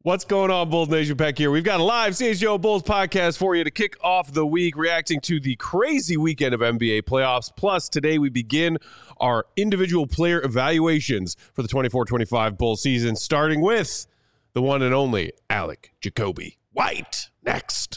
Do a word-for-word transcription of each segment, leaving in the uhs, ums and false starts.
What's going on, Bulls Nation? Peck here. We've got a live C H G O Bulls podcast for you to kick off the week, reacting to the crazy weekend of N B A playoffs. Plus, today we begin our individual player evaluations for the twenty-four twenty-five Bulls season, starting with the one and only Alec Jacoby White. Next.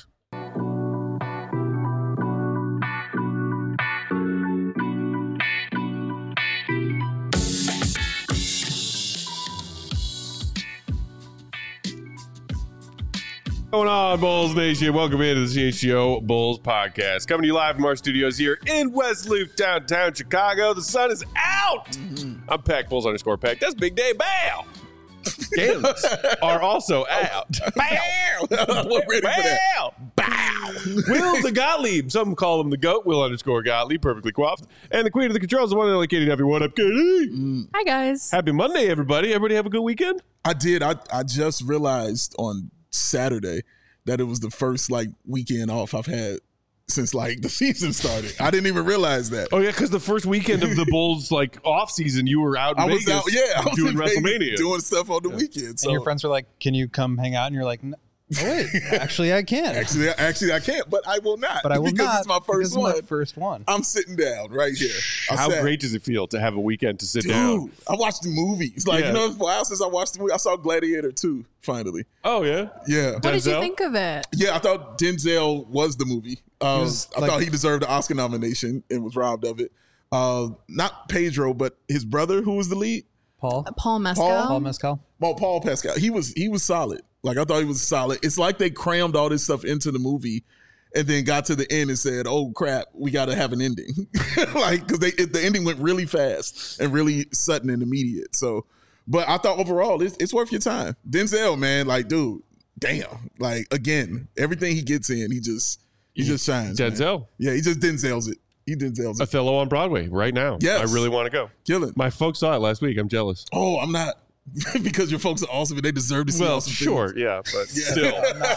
What's going on, Bulls Nation? Welcome into the C H G O Bulls podcast. Coming to you live from our studios here in West Loop, downtown Chicago. The sun is out. Mm-hmm. I'm Peck, Bulls underscore Peck. That's Big Day Bow. Games are also out. Bow. We're ready for that. Bow. Will the Gottlieb. Some call him the GOAT. Will underscore Gottlieb, perfectly coiffed. And the queen of the controls, the one and only Katie Duffy. What up, Katie? Mm. Hi, guys. Happy Monday, everybody. Everybody have a good weekend? I did. I, I just realized on Saturday that it was the first like weekend off I've had since like the season started. I didn't even realize that. Oh yeah, because the first weekend of the Bulls like off season, you were out in I was Vegas out, yeah, I was doing in WrestleMania, Vegas doing stuff on the yeah. weekend. So. And your friends were like, "Can you come hang out?" And you're like, "No, oh, wait, actually, I can." Actually, actually, I can't, but I will not. But I will because not. It's my first it's one. My first one. I'm sitting down right here. I How sat, great does it feel to have a weekend to sit dude, down? I watched the movies. Like yeah. you know, it's a while since I watched the movie. I saw Gladiator two finally. Oh yeah, yeah. What Denzel? Did you think of it? Yeah, I thought Denzel was the movie. Um, was, I like, thought he deserved an Oscar nomination and was robbed of it. Uh, not Pedro, but his brother, who was the lead. Paul. Uh, Paul Mescal. Paul, Paul Mescal. Well, Paul Pascal. He was he was solid. Like I thought he was solid. It's like they crammed all this stuff into the movie, and then got to the end and said, "Oh crap, we got to have an ending." Like because they it, the ending went really fast and really sudden and immediate. So, but I thought overall it's, it's worth your time. Denzel, man, like dude, damn, like again, everything he gets in, he just he just shines. Denzel. Man. Yeah, he just Denzel's it. He Denzel's it. Othello on Broadway right now. Yes. I really want to go. Kill it. My folks saw it last week. I'm jealous. Oh, I'm not. Because your folks are awesome and they deserve to see well, awesome sure, things. yeah, but Yeah. still,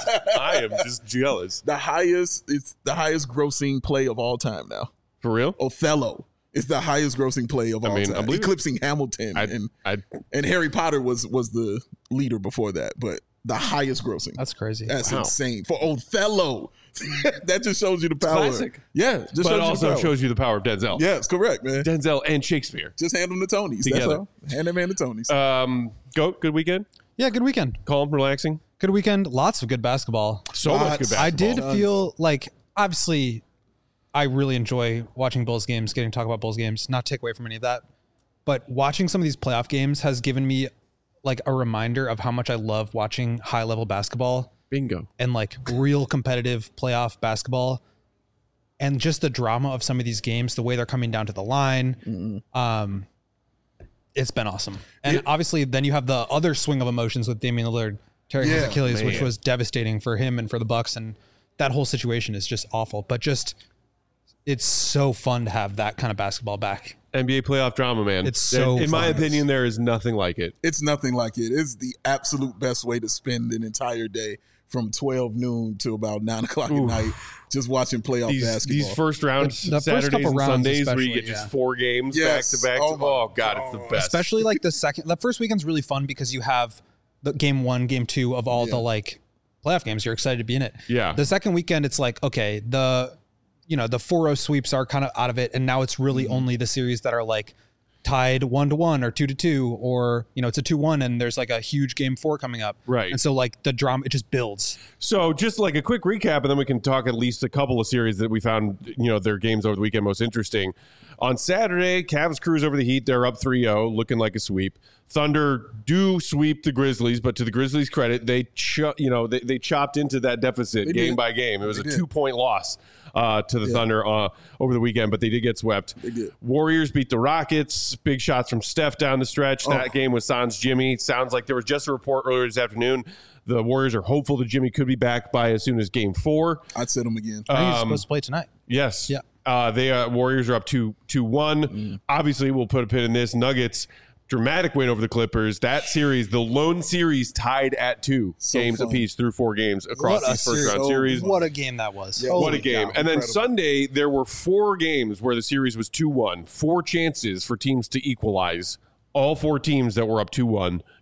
I am just jealous. The highest, it's the highest grossing play of all time now. For real? Othello is the highest grossing play of I all mean, time, eclipsing Hamilton, I'd, and I'd, and Harry Potter was was the leader before that, but the highest grossing. That's crazy. That's wow. insane for Othello. That just shows you the power. Classic. Yeah, just but shows it also you the power. shows you the power of Denzel. Yeah, it's correct, man. Denzel and Shakespeare. Just hand them the Tonys. Together. That's all. Hand them man the Tonys. Um, go good weekend. Yeah, good weekend. Calm, relaxing. Good weekend. Lots of good basketball. So much good basketball. I did feel like, obviously, I really enjoy watching Bulls games, getting to talk about Bulls games, not take away from any of that. But watching some of these playoff games has given me like a reminder of how much I love watching high level basketball. Bingo. And like real competitive playoff basketball. And just the drama of some of these games, the way they're coming down to the line. Mm-hmm. Um, it's been awesome. And it, obviously then you have the other swing of emotions with Damian Lillard tearing his yeah, Achilles, man. which was devastating for him and for the Bucks. And that whole situation is just awful. But just, it's so fun to have that kind of basketball back. N B A playoff drama, man. It's so in, in my fun. opinion, there is nothing like it. It's nothing like it. It's the absolute best way to spend an entire day from twelve noon to about nine o'clock Ooh. at night, just watching playoff These, basketball. these first rounds, The- the first Saturdays couple and rounds Sundays, where you especially, get just yeah. four games Yes. back to back. Oh my Oh, God, it's the God. best. Especially like the second, the first weekend's really fun because you have the game one, game two of all Yeah. the like playoff games. You're excited to be in it. Yeah. The second weekend, it's like, okay, the, you know, the four oh sweeps are kind of out of it. And now it's really Mm-hmm. only the series that are like tied one to one or two to two, or, you know, it's a two one and there's like a huge game four coming up. Right. And so like the drama, it just builds. So just like a quick recap, and then we can talk at least a couple of series that we found, you know, their games over the weekend most interesting. On Saturday, Cavs cruise over the Heat. They're up three oh, looking like a sweep. Thunder do sweep the Grizzlies, but to the Grizzlies' credit, they cho- you know they, they chopped into that deficit They game did. by game. It was They a did. two-point loss uh, to the Yeah. Thunder uh, over the weekend, but they did get swept. They did. Warriors beat the Rockets. Big shots from Steph down the stretch. That Oh. game was sans Jimmy. Sounds like there was just a report earlier this afternoon. The Warriors are hopeful that Jimmy could be back by as soon as game four. I'd sit them again. I think he's Um, supposed to play tonight. Yes. Yeah. Uh, they uh, Warriors are up two two one. Obviously, we'll put a pin in this. Nuggets dramatic win over the Clippers. That series, the lone series, tied at two So games fun. apiece through four games across What a these first series. round So series. fun. What a game that was. Yeah. What a Holy game. cow, And then incredible. Sunday, there were four games where the series was two one. Four chances for teams to equalize. All four teams that were up two one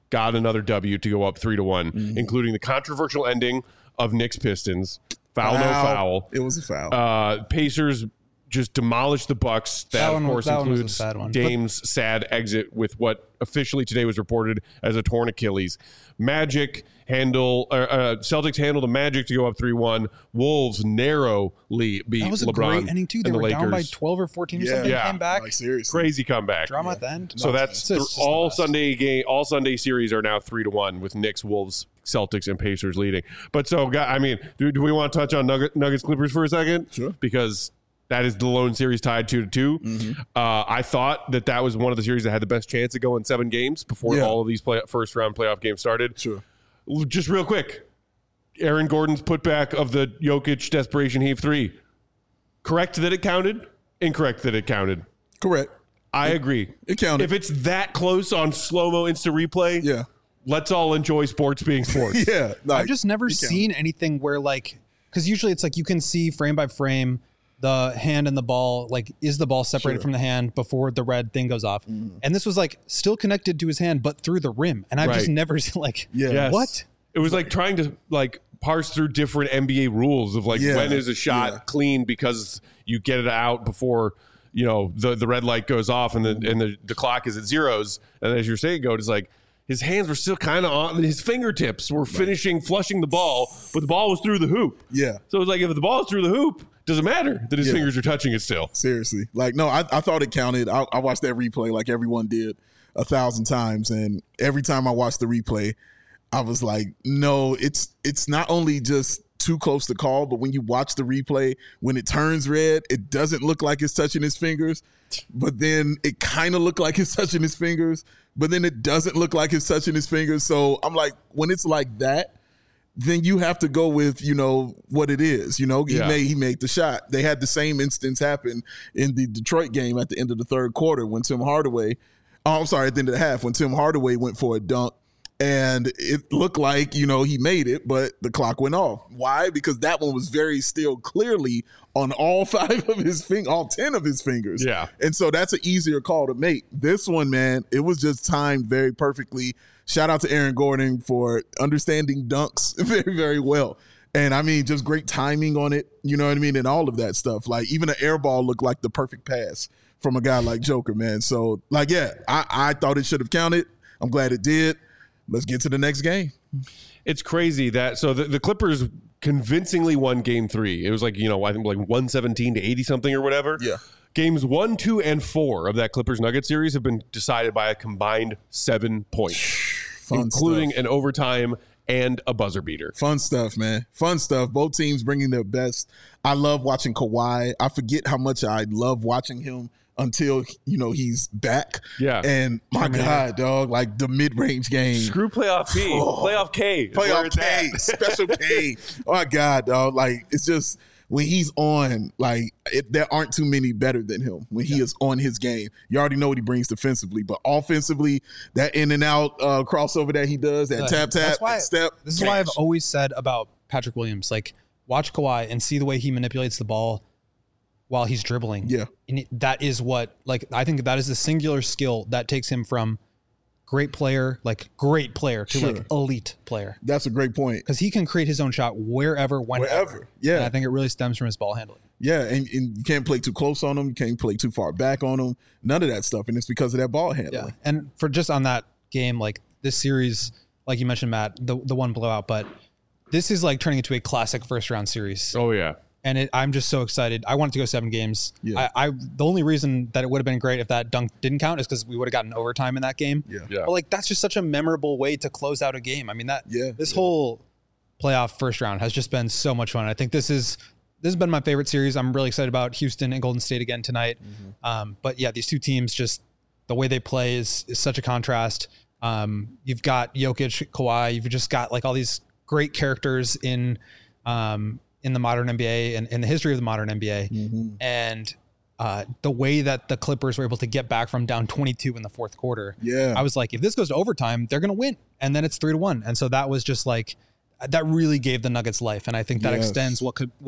got another W to go up three to one, mm-hmm. including the controversial ending of Knicks Pistons. Foul, foul, no foul. It was a foul. Uh, Pacers just demolished the Bucks. That, that of course, one, that includes Dame's but- sad exit with what officially today was reported as a torn Achilles. Magic handle, uh, uh, Celtics handled the Magic to go up three one. Wolves narrowly beat that was a LeBron great ending too. They and were the down by Lakers. twelve or fourteen or yeah. something. Yeah. Came back. Like, seriously. Crazy comeback. Drama yeah. at the end. So no, that's th- all Sunday game. All Sunday series are now three to one with Knicks, Wolves, Celtics, and Pacers leading. But so, I mean, do, do we want to touch on Nugget, Nuggets Clippers for a second? Sure. Because that is the lone series tied two to two. Mm-hmm. Uh, I thought that that was one of the series that had the best chance of going seven games before yeah. all of these play, first round playoff games started. Sure. Just real quick, Aaron Gordon's putback of the Jokic desperation heave three. Correct that it counted. Incorrect that it counted. Correct. I it, agree. It counted. If it's that close on slow mo instant replay, yeah. let's all enjoy sports being sports. yeah, like, I've just never seen anything where like, because usually it's like you can see frame by frame the hand and the ball, like is the ball separated sure. from the hand before the red thing goes off, mm. and this was like still connected to his hand but through the rim, and I've right. just never seen like yeah. yes. what it was like trying to like parse through different N B A rules of like yeah. when is a shot yeah. clean because you get it out before you know the the red light goes off and the mm. and the, the clock is at zeros, and as you're saying, Goat, it's like his hands were still kind of on his fingertips were finishing flushing the ball, but the ball was through the hoop. Yeah, so it was like if the ball is through the hoop, doesn't matter that his yeah. fingers are touching it still. Seriously. Like, no, I, I thought it counted. I, I watched that replay like everyone did a thousand times. And every time I watched the replay, I was like, no, it's it's not only just too close to call, but when you watch the replay, when it turns red, it doesn't look like it's touching his fingers. But then it kind of looked like it's touching his fingers. But then it doesn't look like it's touching his fingers. So I'm like, when it's like that, then you have to go with, you know, what it is. You know, he yeah. made he made the shot. They had the same instance happen in the Detroit game at the end of the third quarter when Tim Hardaway, oh, I'm sorry, at the end of the half when Tim Hardaway went for a dunk and it looked like, you know, he made it, but the clock went off. Why? Because that one was very still clearly on all five of his fingers, all ten of his fingers. Yeah. And so that's an easier call to make. This one, man, it was just timed very perfectly. Shout out to Aaron Gordon for understanding dunks very, very well. And I mean, just great timing on it. You know what I mean? And all of that stuff. Like even an air ball looked like the perfect pass from a guy like Joker, man. So like, yeah, I, I thought it should have counted. I'm glad it did. Let's get to the next game. It's crazy that, so the, the Clippers convincingly won game three. It was like, you know, I think like one seventeen to eighty something or whatever. Yeah. Games one, two, and four of that Clippers Nugget series have been decided by a combined seven points, Fun including stuff. an overtime and a buzzer beater. Fun stuff, man. Fun stuff. Both teams bringing their best. I love watching Kawhi. I forget how much I love watching him until, you know, he's back. Yeah. And my I mean, God, dog, like the mid-range game. Screw playoff P. Oh, playoff K. Playoff K. Special K. Oh, my God, dog. Like, it's just when he's on, like, it, there aren't too many better than him when he yeah. is on his game. You already know what he brings defensively, but offensively, that in and out uh, crossover that he does, that tap, tap, why, step. This is cash. why I've always said about Patrick Williams, like, watch Kawhi and see the way he manipulates the ball while he's dribbling. Yeah. And it, that is what, like, I think that is the singular skill that takes him from great player, like great player to sure. like elite player. That's a great point. Because he can create his own shot wherever, whenever. Wherever. Yeah. And I think it really stems from his ball handling. Yeah. And, and you can't play too close on him. You can't play too far back on him. None of that stuff. And it's because of that ball handling. Yeah. And for just on that game, like this series, like you mentioned, Matt, the, the one blowout, but this is like turning into a classic first round series. Oh, yeah. And it, I'm just so excited. I wanted to go seven games. Yeah. I, I the only reason that it would have been great if that dunk didn't count is because we would have gotten overtime in that game. Yeah. yeah. But like that's just such a memorable way to close out a game. I mean that yeah. this yeah. whole playoff first round has just been so much fun. I think this is this has been my favorite series. I'm really excited about Houston and Golden State again tonight. Mm-hmm. Um, but yeah, these two teams, just the way they play is is such a contrast. Um, you've got Jokic, Kawhi. You've just got like all these great characters in. Um, in the modern N B A and in the history of the modern N B A. Mm-hmm. And uh, the way that the Clippers were able to get back from down twenty-two in the fourth quarter. Yeah. I was like, if this goes to overtime, they're going to win. And then it's three to one. And so that was just like, that really gave the Nuggets life. And I think that yes. extends what could, what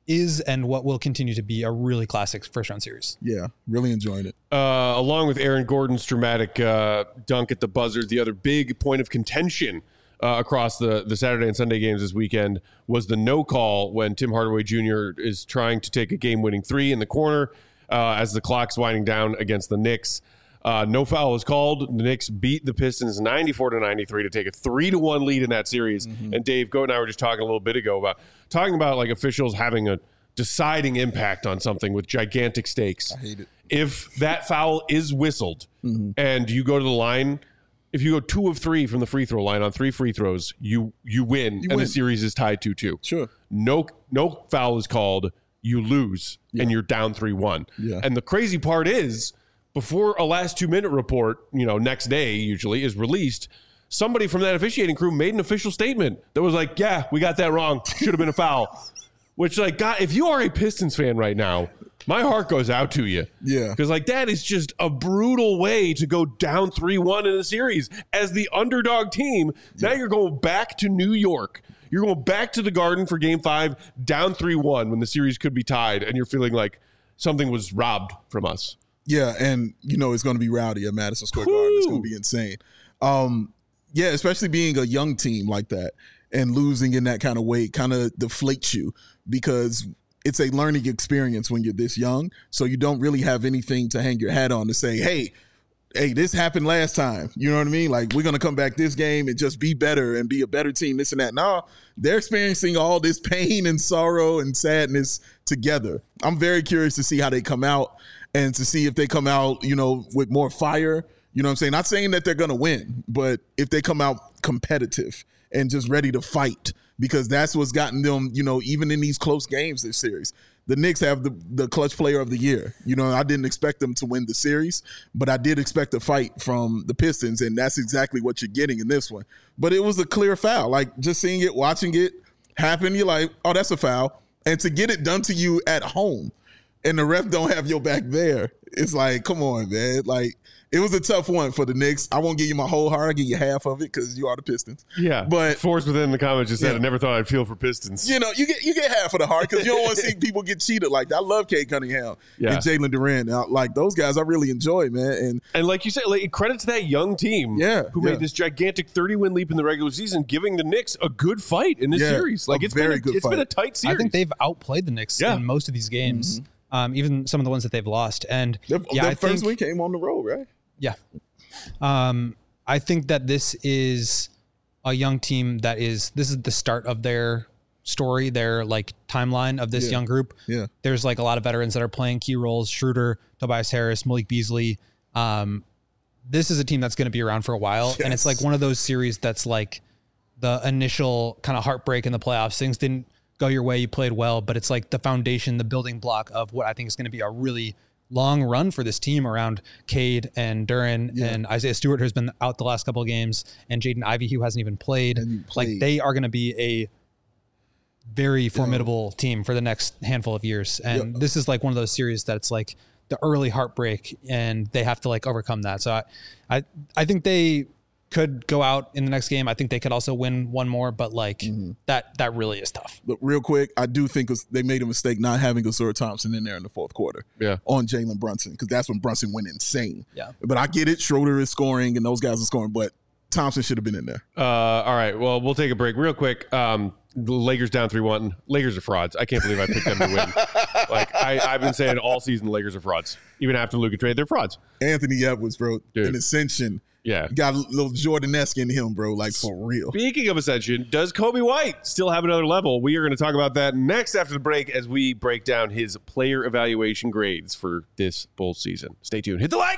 is and what will continue to be a really classic first round series. Yeah, really enjoying it. Uh, along with Aaron Gordon's dramatic uh, dunk at the buzzer, the other big point of contention uh, across the, the Saturday and Sunday games this weekend was the no call when Tim Hardaway Junior is trying to take a game-winning three in the corner uh, as the clock's winding down against the Knicks. Uh, no foul was called. The Knicks beat the Pistons ninety-four to ninety-three to take a three to one lead in that series. Mm-hmm. And Dave, Goat and I were just talking a little bit ago about talking about like officials having a deciding impact on something with gigantic stakes. I hate it. If that foul is whistled mm-hmm. and you go to the line, if you go two of three from the free throw line on three free throws, you you win, you and win. The series is tied two two. Sure. No no foul is called, you lose, yeah. and you're down three one. Yeah. And the crazy part is, before a last two-minute report, you know, next day usually is released, somebody from that officiating crew made an official statement that was like, yeah, we got that wrong. Should have been a foul. Which, like, God, if you are a Pistons fan right now, my heart goes out to you. Yeah. Because, like, that is just a brutal way to go down three one in a series. As the underdog team, yeah. now you're going back to New York. You're going back to the Garden for game five, down three one when the series could be tied, and you're feeling like something was robbed from us. Yeah, and, you know, it's going to be rowdy at Madison Square Garden. It's going to be insane. Um, yeah, especially being a young team like that and losing in that kind of way kind of deflates you because it's a learning experience when you're this young. So you don't really have anything to hang your hat on to say, hey, hey, this happened last time. You know what I mean? Like, we're going to come back this game and just be better and be a better team, this and that. No, they're experiencing all this pain and sorrow and sadness together. I'm very curious to see how they come out. And to see if they come out, you know, with more fire, you know what I'm saying? Not saying that they're going to win, but if they come out competitive and just ready to fight, because that's what's gotten them, you know, even in these close games this series. The Knicks have the, the clutch player of the year. You know, I didn't expect them to win the series, but I did expect a fight from the Pistons, and that's exactly what you're getting in this one. But it was a clear foul. Like, just seeing it, watching it happen, you're like, oh, that's a foul. And to get it done to you at home, and the ref don't have your back there, it's like, come on, man. Like, it was a tough one for the Knicks. I won't give you my whole heart. I'll give you half of it because you are the Pistons. Yeah. But Forrest within the comments just said, yeah. I never thought I'd feel for Pistons. You know, you get you get half of the heart because you don't want to see people get cheated like that. I love Cade Cunningham yeah. and Jalen Duren. Now, like, those guys I really enjoy, man. And and like you said, like, credit to that young team yeah, who yeah. made this gigantic thirty-win leap in the regular season, giving the Knicks a good fight in this yeah, series. Like, it's, very been, a, good it's fight. been a tight series. I think they've outplayed the Knicks yeah. in most of these games, mm-hmm. um, even some of the ones that they've lost. And their, yeah, their I first think, win came on the road, right? Yeah. Um, I think that this is a young team that is, this is the start of their story, their like timeline of this yeah. young group. Yeah. There's like a lot of veterans that are playing key roles. Schroeder, Tobias Harris, Malik Beasley. Um, this is a team that's going to be around for a while. Yes. And it's like one of those series that's like the initial kind of heartbreak in the playoffs. Things didn't go your way. You played well, but it's like the foundation, the building block of what I think is going to be a really long run for this team around Cade and Duren yeah. and Isaiah Stewart, who's been out the last couple of games, and Jaden Ivey, who hasn't even played. played. Like, they are going to be a very formidable yeah. team for the next handful of years. And yeah. this is like one of those series that's like the early heartbreak, and they have to like overcome that. So I, I, I think they could go out in the next game. I think they could also win one more, but like mm-hmm. that that really is tough. But real quick, I do think they made a mistake not having Ausar Thompson in there in the fourth quarter yeah. on Jalen Brunson, because that's when Brunson went insane. Yeah. But I get it. Schroeder is scoring and those guys are scoring, but Thompson should have been in there. Uh, all right. Well, we'll take a break real quick. Um, the Lakers down three one. Lakers are frauds. I can't believe I picked them to win. Like, I, I've been saying all season the Lakers are frauds. Even after Luka trade, they're frauds. Anthony Edwards, bro, Dude. an ascension. Yeah. Got a little Jordan-esque in him, bro, like for real. Speaking of ascension, does Kobe White still have another level? We are going to talk about that next after the break as we break down his player evaluation grades for this Bulls season. Stay tuned. Hit the like!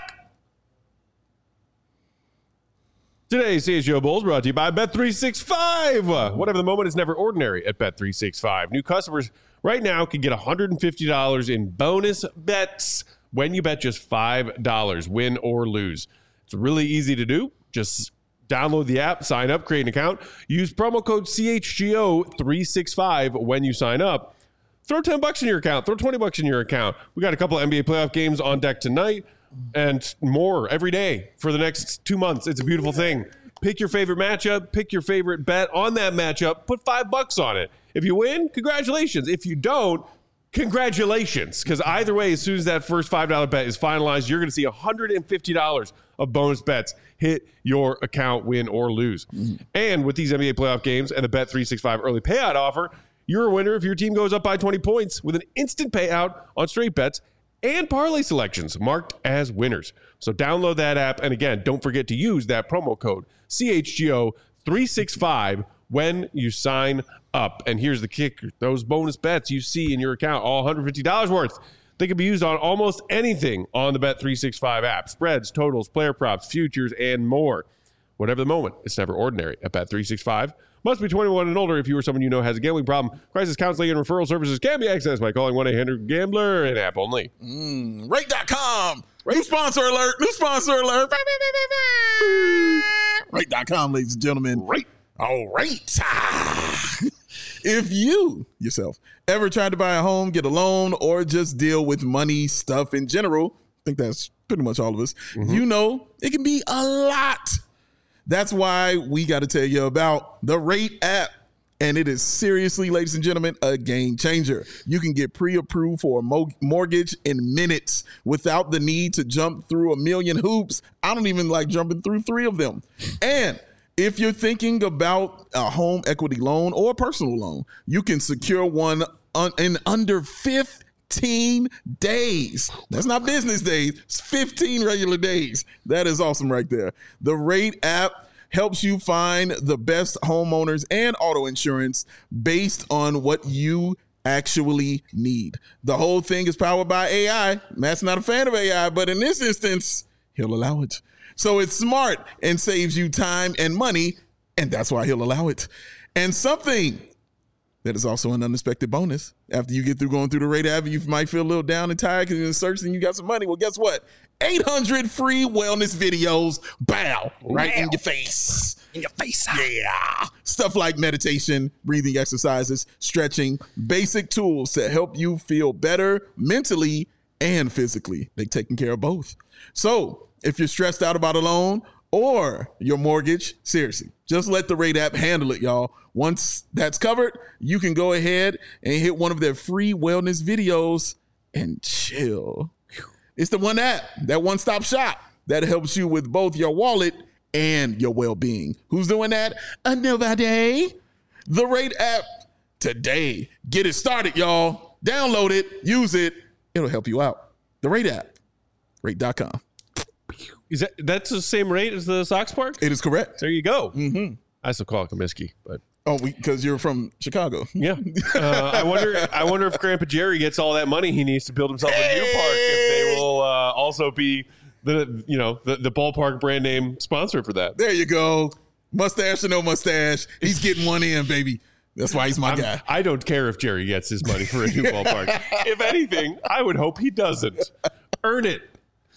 Today's C H G O Bulls brought to you by Bet three sixty-five. Whatever the moment is never ordinary at Bet three sixty-five. New customers right now can get one hundred fifty dollars in bonus bets when you bet just five dollars, win or lose. It's really easy to do. Just download the app, sign up, create an account. Use promo code C H G O three sixty-five when you sign up. Throw ten bucks in your account. Throw twenty bucks in your account. We got a couple of N B A playoff games on deck tonight and more every day for the next two months. It's a beautiful thing. Pick your favorite matchup. Pick your favorite bet on that matchup. Put five bucks on it. If you win, congratulations. If you don't, congratulations. Because either way, as soon as that first five dollar bet is finalized, you're going to see one hundred fifty dollars of bonus bets hit your account, win or lose. Mm-hmm. And with these N B A playoff games and the Bet three sixty-five early payout offer, you're a winner if your team goes up by twenty points with an instant payout on straight bets and parlay selections marked as winners. So download that app. And again, don't forget to use that promo code C H G O three sixty-five when you sign up. And here's the kicker. Those bonus bets you see in your account, all one hundred fifty dollars worth, they can be used on almost anything on the Bet three sixty-five app. Spreads, totals, player props, futures, and more. Whatever the moment, it's never ordinary at Bet three sixty-five. Must be twenty-one and older if you or someone you know has a gambling problem. Crisis counseling and referral services can be accessed by calling one eight hundred gambler and app only. Mm, rate dot com. New sponsor alert. New sponsor alert. rate dot com, ladies and gentlemen. Right. All right. If you, yourself, ever tried to buy a home, get a loan, or just deal with money stuff in general, I think that's pretty much all of us, mm-hmm. you know it can be a lot. That's why we got to tell you about the Rate app. And it is seriously, ladies and gentlemen, a game changer. You can get pre-approved for a mo- mortgage in minutes without the need to jump through a million hoops. I don't even like jumping through three of them. And if you're thinking about a home equity loan or a personal loan, you can secure one un- in under fifteen days. That's not business days. It's fifteen regular days. That is awesome right there. The Rate app helps you find the best homeowners and auto insurance based on what you actually need. The whole thing is powered by A I. Matt's not a fan of A I, but in this instance, he'll allow it. So it's smart and saves you time and money, and that's why he'll allow it. And something that is also an unexpected bonus. After you get through going through the Rate app, you might feel a little down and tired because you're searching, you got some money. Well, guess what? eight hundred free wellness videos, bow, right wow. in your face. In your face. Yeah. Stuff like meditation, breathing exercises, stretching, basic tools to help you feel better mentally and physically. They're taking care of both. So if you're stressed out about a loan or your mortgage, seriously, just let the Rate app handle it, y'all. Once that's covered, you can go ahead and hit one of their free wellness videos and chill. It's the one app, that one-stop shop that helps you with both your wallet and your well-being. Who's doing that? Uh, nobody. The Rate app today. Get it started, y'all. Download it. Use it. It'll help you out. The Rate app. Rate dot com. Is that that's the same rate as the Sox Park? It is correct. There you go. Mm-hmm. I still call it Comiskey, but oh, because you're from Chicago. Yeah. Uh, I wonder. I wonder if Grandpa Jerry gets all that money he needs to build himself a new park. If they will uh, also be the you know the, the ballpark brand name sponsor for that. There you go. Mustache or no mustache, he's getting one in, baby. That's why he's my I'm, guy. I don't care if Jerry gets his money for a new ballpark. If anything, I would hope he doesn't. Earn it.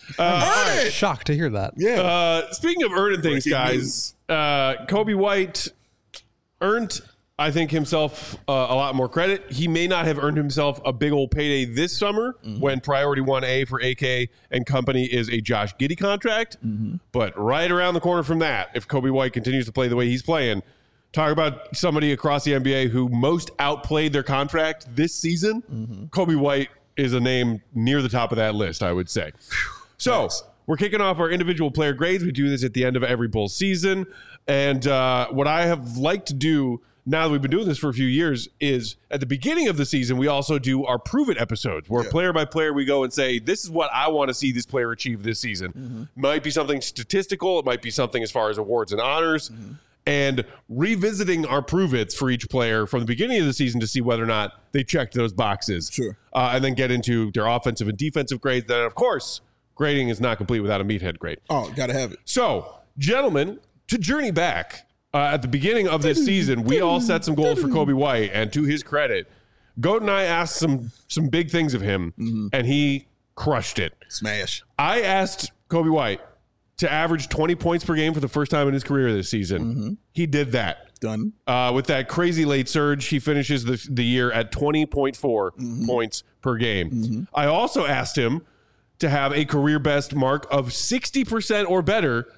Uh, Earn it. Shocked to hear that. Yeah. Uh, speaking of earning things, guys, uh, Kobe White earned, I think, himself uh, a lot more credit. He may not have earned himself a big old payday this summer mm-hmm. when Priority one A for A K and company is a Josh Giddey contract. Mm-hmm. But right around the corner from that, if Kobe White continues to play the way he's playing, talk about somebody across the N B A who most outplayed their contract this season. Mm-hmm. Kobe White is a name near the top of that list, I would say. So nice. We're kicking off our individual player grades. We do this at the end of every Bulls season. And uh, what I have liked to do now that we've been doing this for a few years is at the beginning of the season, we also do our Prove It episodes where yeah. player by player, we go and say, this is what I want to see this player achieve this season. Mm-hmm. Might be something statistical. It might be something as far as awards and honors. Mm-hmm. And revisiting our Prove It's for each player from the beginning of the season to see whether or not they checked those boxes. Sure. Uh, and then get into their offensive and defensive grades. Then, of course, grading is not complete without a meathead grade. Oh, got to have it. So, gentlemen, to journey back, uh, at the beginning of this season, we all set some goals for Kobe White. And to his credit, Goat and I asked some some big things of him, mm-hmm. and he crushed it. Smash. I asked Kobe White to average twenty points per game for the first time in his career this season. Mm-hmm. He did that. Done. Uh, with that crazy late surge, he finishes the, the year at twenty point four mm-hmm. points per game. Mm-hmm. I also asked him to have a career best mark of sixty percent or better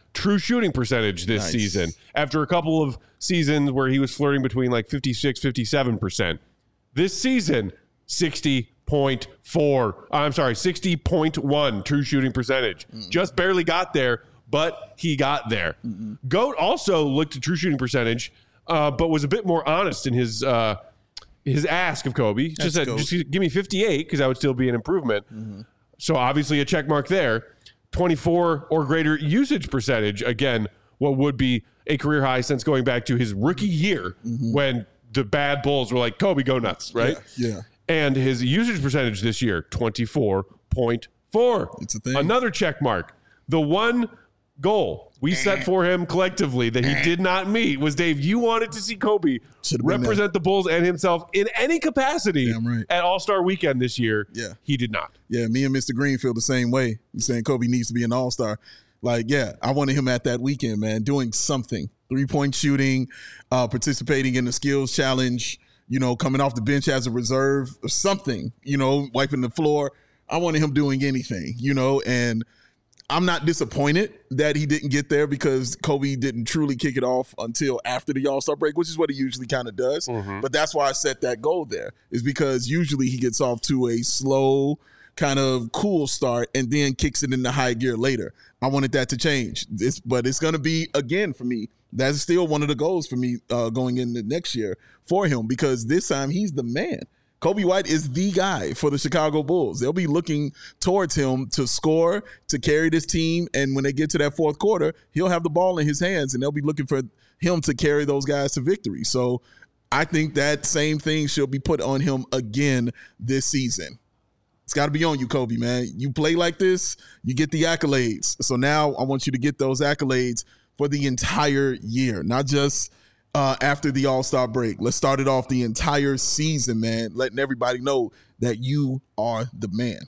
true shooting percentage this Nice. season after a couple of seasons where he was flirting between like fifty-six, fifty-seven percent. This season, sixty point four. I'm sorry, sixty point one true shooting percentage. Mm. Just barely got there, but he got there. Mm-mm. GOAT also looked at true shooting percentage, uh, but was a bit more honest in his uh, his ask of Kobe. Just said, just give me fifty-eight because that would still be an improvement. Mm-hmm. So obviously a check mark there. twenty-four or greater usage percentage. Again, what would be a career high since going back to his rookie year mm-hmm. when the bad Bulls were like, Kobe, go nuts, right? Yeah. yeah. And his usage percentage this year, twenty-four point four. It's a thing. Another check mark. The one goal we set for him collectively that he did not meet was, Dave, you wanted to see Kobe represent the Bulls and himself in any capacity right. at All-Star Weekend this year. Yeah. He did not. Yeah, me and Mister Green feel the same way. He's saying Kobe needs to be an All-Star. Like, yeah, I wanted him at that weekend, man, doing something. Three-point shooting, uh, participating in the skills challenge, you know, coming off the bench as a reserve or something, you know, wiping the floor. I wanted him doing anything, you know, and I'm not disappointed that he didn't get there because Kobe didn't truly kick it off until after the All-Star break, which is what he usually kind of does. Mm-hmm. But that's why I set that goal there, is because usually he gets off to a slow, kind of cool start and then kicks it into high gear later. I wanted that to change. This, but it's going to be, again, for me, that's still one of the goals for me uh, going into next year for him, because this time he's the man. Kobe White is the guy for the Chicago Bulls. They'll be looking towards him to score, to carry this team, and when they get to that fourth quarter, he'll have the ball in his hands, and they'll be looking for him to carry those guys to victory. So I think that same thing should be put on him again this season. It's got to be on you, Kobe, man. You play like this, you get the accolades. So now I want you to get those accolades for the entire year, not just uh, after the All-Star break. Let's start it off the entire season, man, letting everybody know that you are the man.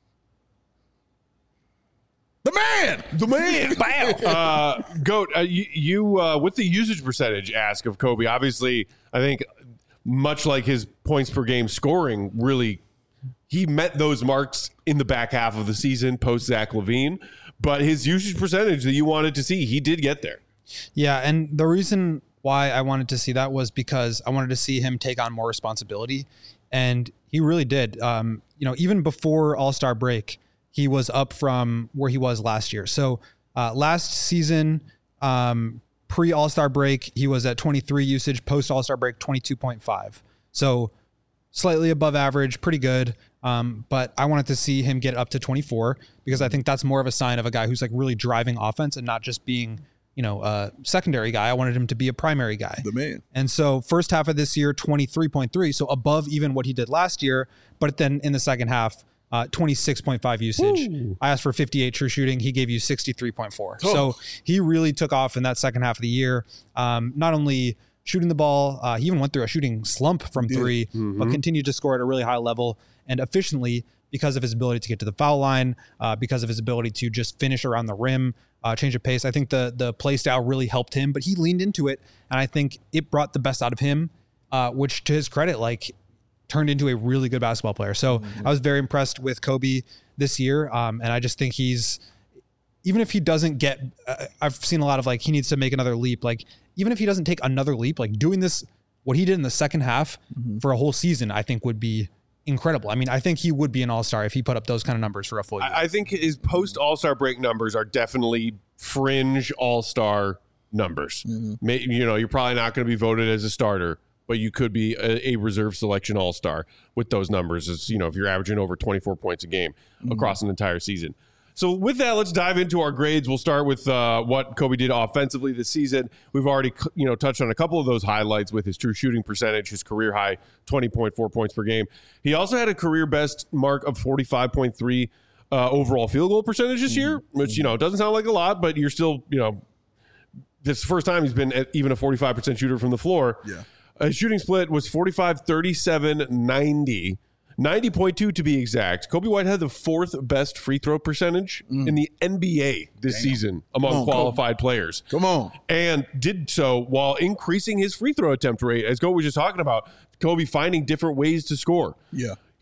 The man! The man! Bam! uh, Goat, uh, you, you uh, with the usage percentage ask of Kobe, obviously, I think much like his points per game scoring, really, he met those marks in the back half of the season post Zach LaVine, but his usage percentage that you wanted to see, he did get there. Yeah, and the reason why I wanted to see that was because I wanted to see him take on more responsibility, and he really did. Um, you know, even before All-Star break, he was up from where he was last year. So uh, last season, um, pre All-Star break, he was at twenty-three usage, post All-Star break, twenty-two point five. So slightly above average, pretty good. Um, but I wanted to see him get up to twenty-four because I think that's more of a sign of a guy who's like really driving offense and not just being, you know, a secondary guy. I wanted him to be a primary guy. The man. And so first half of this year, twenty-three point three. So above even what he did last year. But then in the second half, uh, twenty-six point five usage. Ooh. I asked for fifty-eight true shooting. He gave you sixty-three point four. Oh. So he really took off in that second half of the year. Um, not only shooting the ball, uh, he even went through a shooting slump from three, mm-hmm. but continued to score at a really high level and efficiently because of his ability to get to the foul line, uh, because of his ability to just finish around the rim, uh, change of pace. I think the the play style really helped him, but he leaned into it, and I think it brought the best out of him, uh, which to his credit, like turned into a really good basketball player. So mm-hmm. I was very impressed with Kobe this year, um, and I just think he's, even if he doesn't get, uh, I've seen a lot of like, he needs to make another leap. Like, even if he doesn't take another leap, like doing this, what he did in the second half mm-hmm. for a whole season, I think would be incredible. I mean, I think he would be an all-star if he put up those kind of numbers for a full year. I think his post all-star break numbers are definitely fringe all-star numbers. Mm-hmm. Maybe, you know, you're probably not going to be voted as a starter, but you could be a, a reserve selection all-star with those numbers. As you know, if you're averaging over twenty-four points a game mm-hmm. across an entire season. So with that, let's dive into our grades. We'll start with uh, what Kobe did offensively this season. We've already, you know, touched on a couple of those highlights with his true shooting percentage, his career high twenty point four points per game. He also had a career best mark of forty-five point three uh, overall field goal percentage this year, which, you know, doesn't sound like a lot, but you're still, you know, this is the first time he's been at even a forty-five percent shooter from the floor. Yeah. His shooting split was forty-five, thirty-seven, ninety. ninety point two to be exact. Kobe White had the fourth best free throw percentage mm. in the N B A this Damn. season among on, qualified Kobe. players. Come on. And did so while increasing his free throw attempt rate, as Kobe was just talking about, Kobe finding different ways to score. Yeah.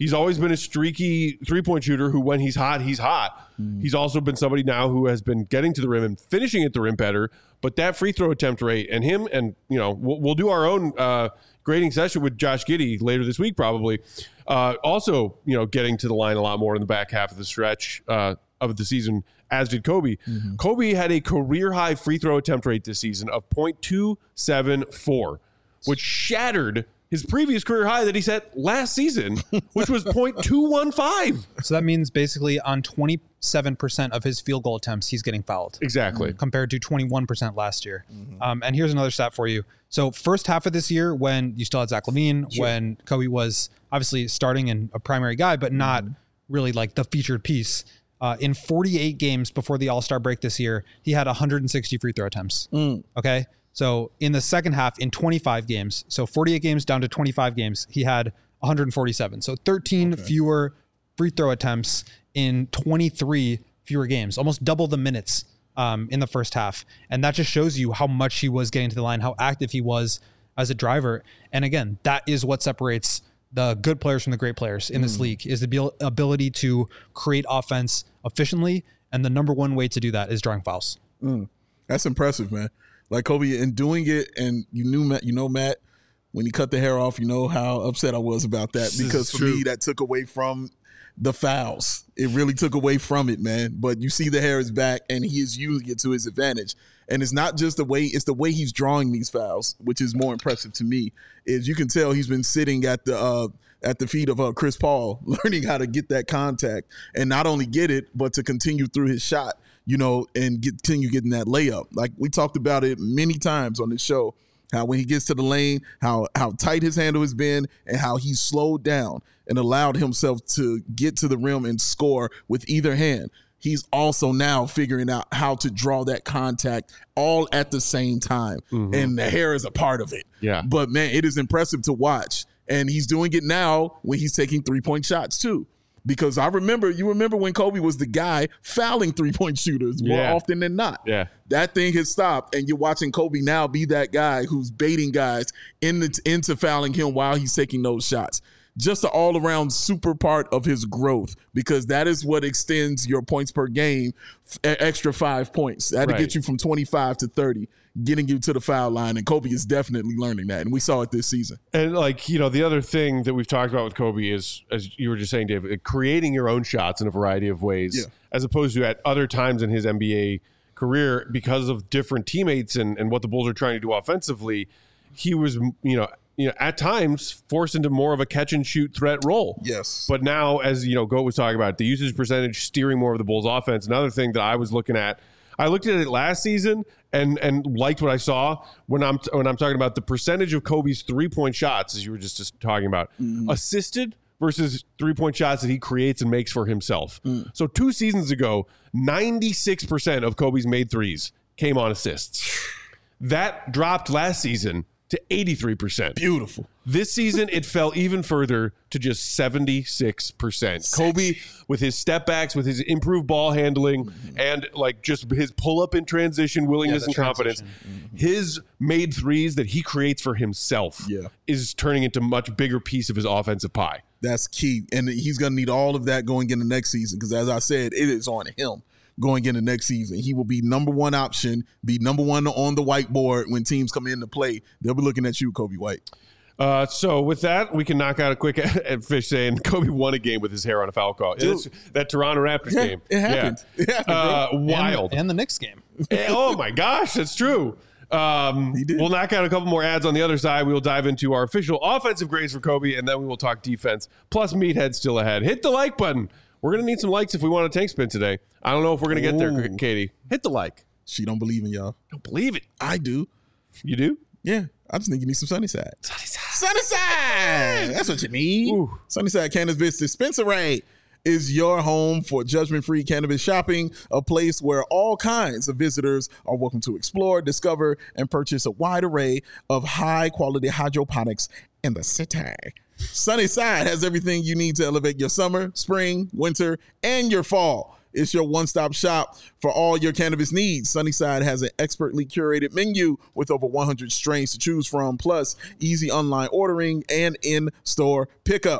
He's always been a streaky three-point shooter who, when he's hot, he's hot. Mm. He's also been somebody now who has been getting to the rim and finishing at the rim better. But that free throw attempt rate and him, and, you know, we'll, we'll do our own uh, grading session with Josh Giddey later this week probably. Uh, also, you know, getting to the line a lot more in the back half of the stretch uh, of the season, as did Kobe. Mm-hmm. Kobe had a career-high free throw attempt rate this season of point two seven four, which shattered his previous career high that he set last season, which was point two one five. So that means basically on twenty-seven percent of his field goal attempts, he's getting fouled. Exactly. Mm-hmm. Compared to twenty-one percent last year. Mm-hmm. Um, and here's another stat for you. So first half of this year, when you still had Zach LaVine, sure. when Kobe was obviously starting and a primary guy, but not mm-hmm. really like the featured piece, uh, in forty-eight games before the All-Star break this year, he had one hundred sixty free throw attempts. Mm. Okay. So in the second half, in twenty-five games, so forty-eight games down to twenty-five games, he had one hundred forty-seven. So thirteen okay. fewer free throw attempts in twenty-three fewer games, almost double the minutes um, in the first half. And that just shows you how much he was getting to the line, how active he was as a driver. And again, that is what separates the good players from the great players in this mm. league, is the ability to create offense efficiently. And the number one way to do that is drawing fouls. Mm. That's impressive, man. Like Kobe, and doing it, and you knew Matt, you know, Matt, when he cut the hair off, you know how upset I was about that, because for true. me, that took away from the fouls. It really took away from it, man. But you see the hair is back, and he is using it to his advantage. And it's not just the way, it's the way he's drawing these fouls, which is more impressive to me, is you can tell he's been sitting at the uh, at the feet of uh, Chris Paul, learning how to get that contact, and not only get it, but to continue through his shot, you know, and get, continue getting that layup. Like we talked about it many times on this show, how when he gets to the lane, how how tight his handle has been, and how he slowed down and allowed himself to get to the rim and score with either hand. He's also now figuring out how to draw that contact all at the same time. Mm-hmm. And the hair is a part of it. Yeah. But, man, it is impressive to watch. And he's doing it now when he's taking three-point shots, too. Because I remember, you remember when Kobe was the guy fouling three-point shooters more yeah. often than not. Yeah. That thing has stopped, and you're watching Kobe now be that guy who's baiting guys in the, into fouling him while he's taking those shots. Just an all-around super part of his growth, because that is what extends your points per game, f- extra five points. That'll right. get you from twenty-five to thirty, getting you to the foul line, and Kobe is definitely learning that, and we saw it this season. And, like, you know, the other thing that we've talked about with Kobe is, as you were just saying, Dave, creating your own shots in a variety of ways, yeah. as opposed to at other times in his N B A career, because of different teammates and, and what the Bulls are trying to do offensively, he was, you know, you know, at times forced into more of a catch and shoot threat role. Yes. But now, as you know, Goat was talking about, the usage percentage steering more of the Bulls offense. Another thing that I was looking at, I looked at it last season and and liked what I saw when I'm when I'm talking about the percentage of Kobe's three point shots, as you were just, just talking about, mm-hmm. assisted versus three point shots that he creates and makes for himself. Mm. So two seasons ago, ninety-six percent of Kobe's made threes came on assists. That dropped last season to eighty-three percent. Beautiful. This season, it fell even further to just seventy-six percent. Kobe, with his step backs, with his improved ball handling, mm-hmm. and like just his pull up in transition, willingness yeah, and confidence, mm-hmm. his made threes that he creates for himself yeah. is turning into a much bigger piece of his offensive pie. That's key. And he's going to need all of that going into next season, because as I said, it is on him. Going into next season, he will be number one option, be number one on the whiteboard when teams come in to play. They'll be looking at you, Kobe White. Uh, so with that, we can knock out a quick fish saying Kobe won a game with his hair on a foul call. That Toronto Raptors yeah, game. It happened. Yeah. It happened uh, wild. And, and the Knicks game. Oh, my gosh, that's true. Um, we'll knock out a couple more ads on the other side. We will dive into our official offensive grades for Kobe, and then we will talk defense. Plus, Meathead still ahead. Hit the like button. We're going to need some likes if we want a tank spin today. I don't know if we're going to get there, Katie. Hit the like. She don't believe in y'all. Don't believe it. I do. You do? Yeah. I just think you need some Sunnyside. Sunnyside. Sunnyside. That's what you need. Ooh. Sunnyside Cannabis Dispensary is your home for judgment-free cannabis shopping, a place where all kinds of visitors are welcome to explore, discover, and purchase a wide array of high-quality hydroponics in the city. Sunnyside has everything you need to elevate your summer, spring, winter, and your fall. It's your one-stop shop for all your cannabis needs. Sunnyside has an expertly curated menu with over one hundred strains to choose from, plus easy online ordering and in-store pickup.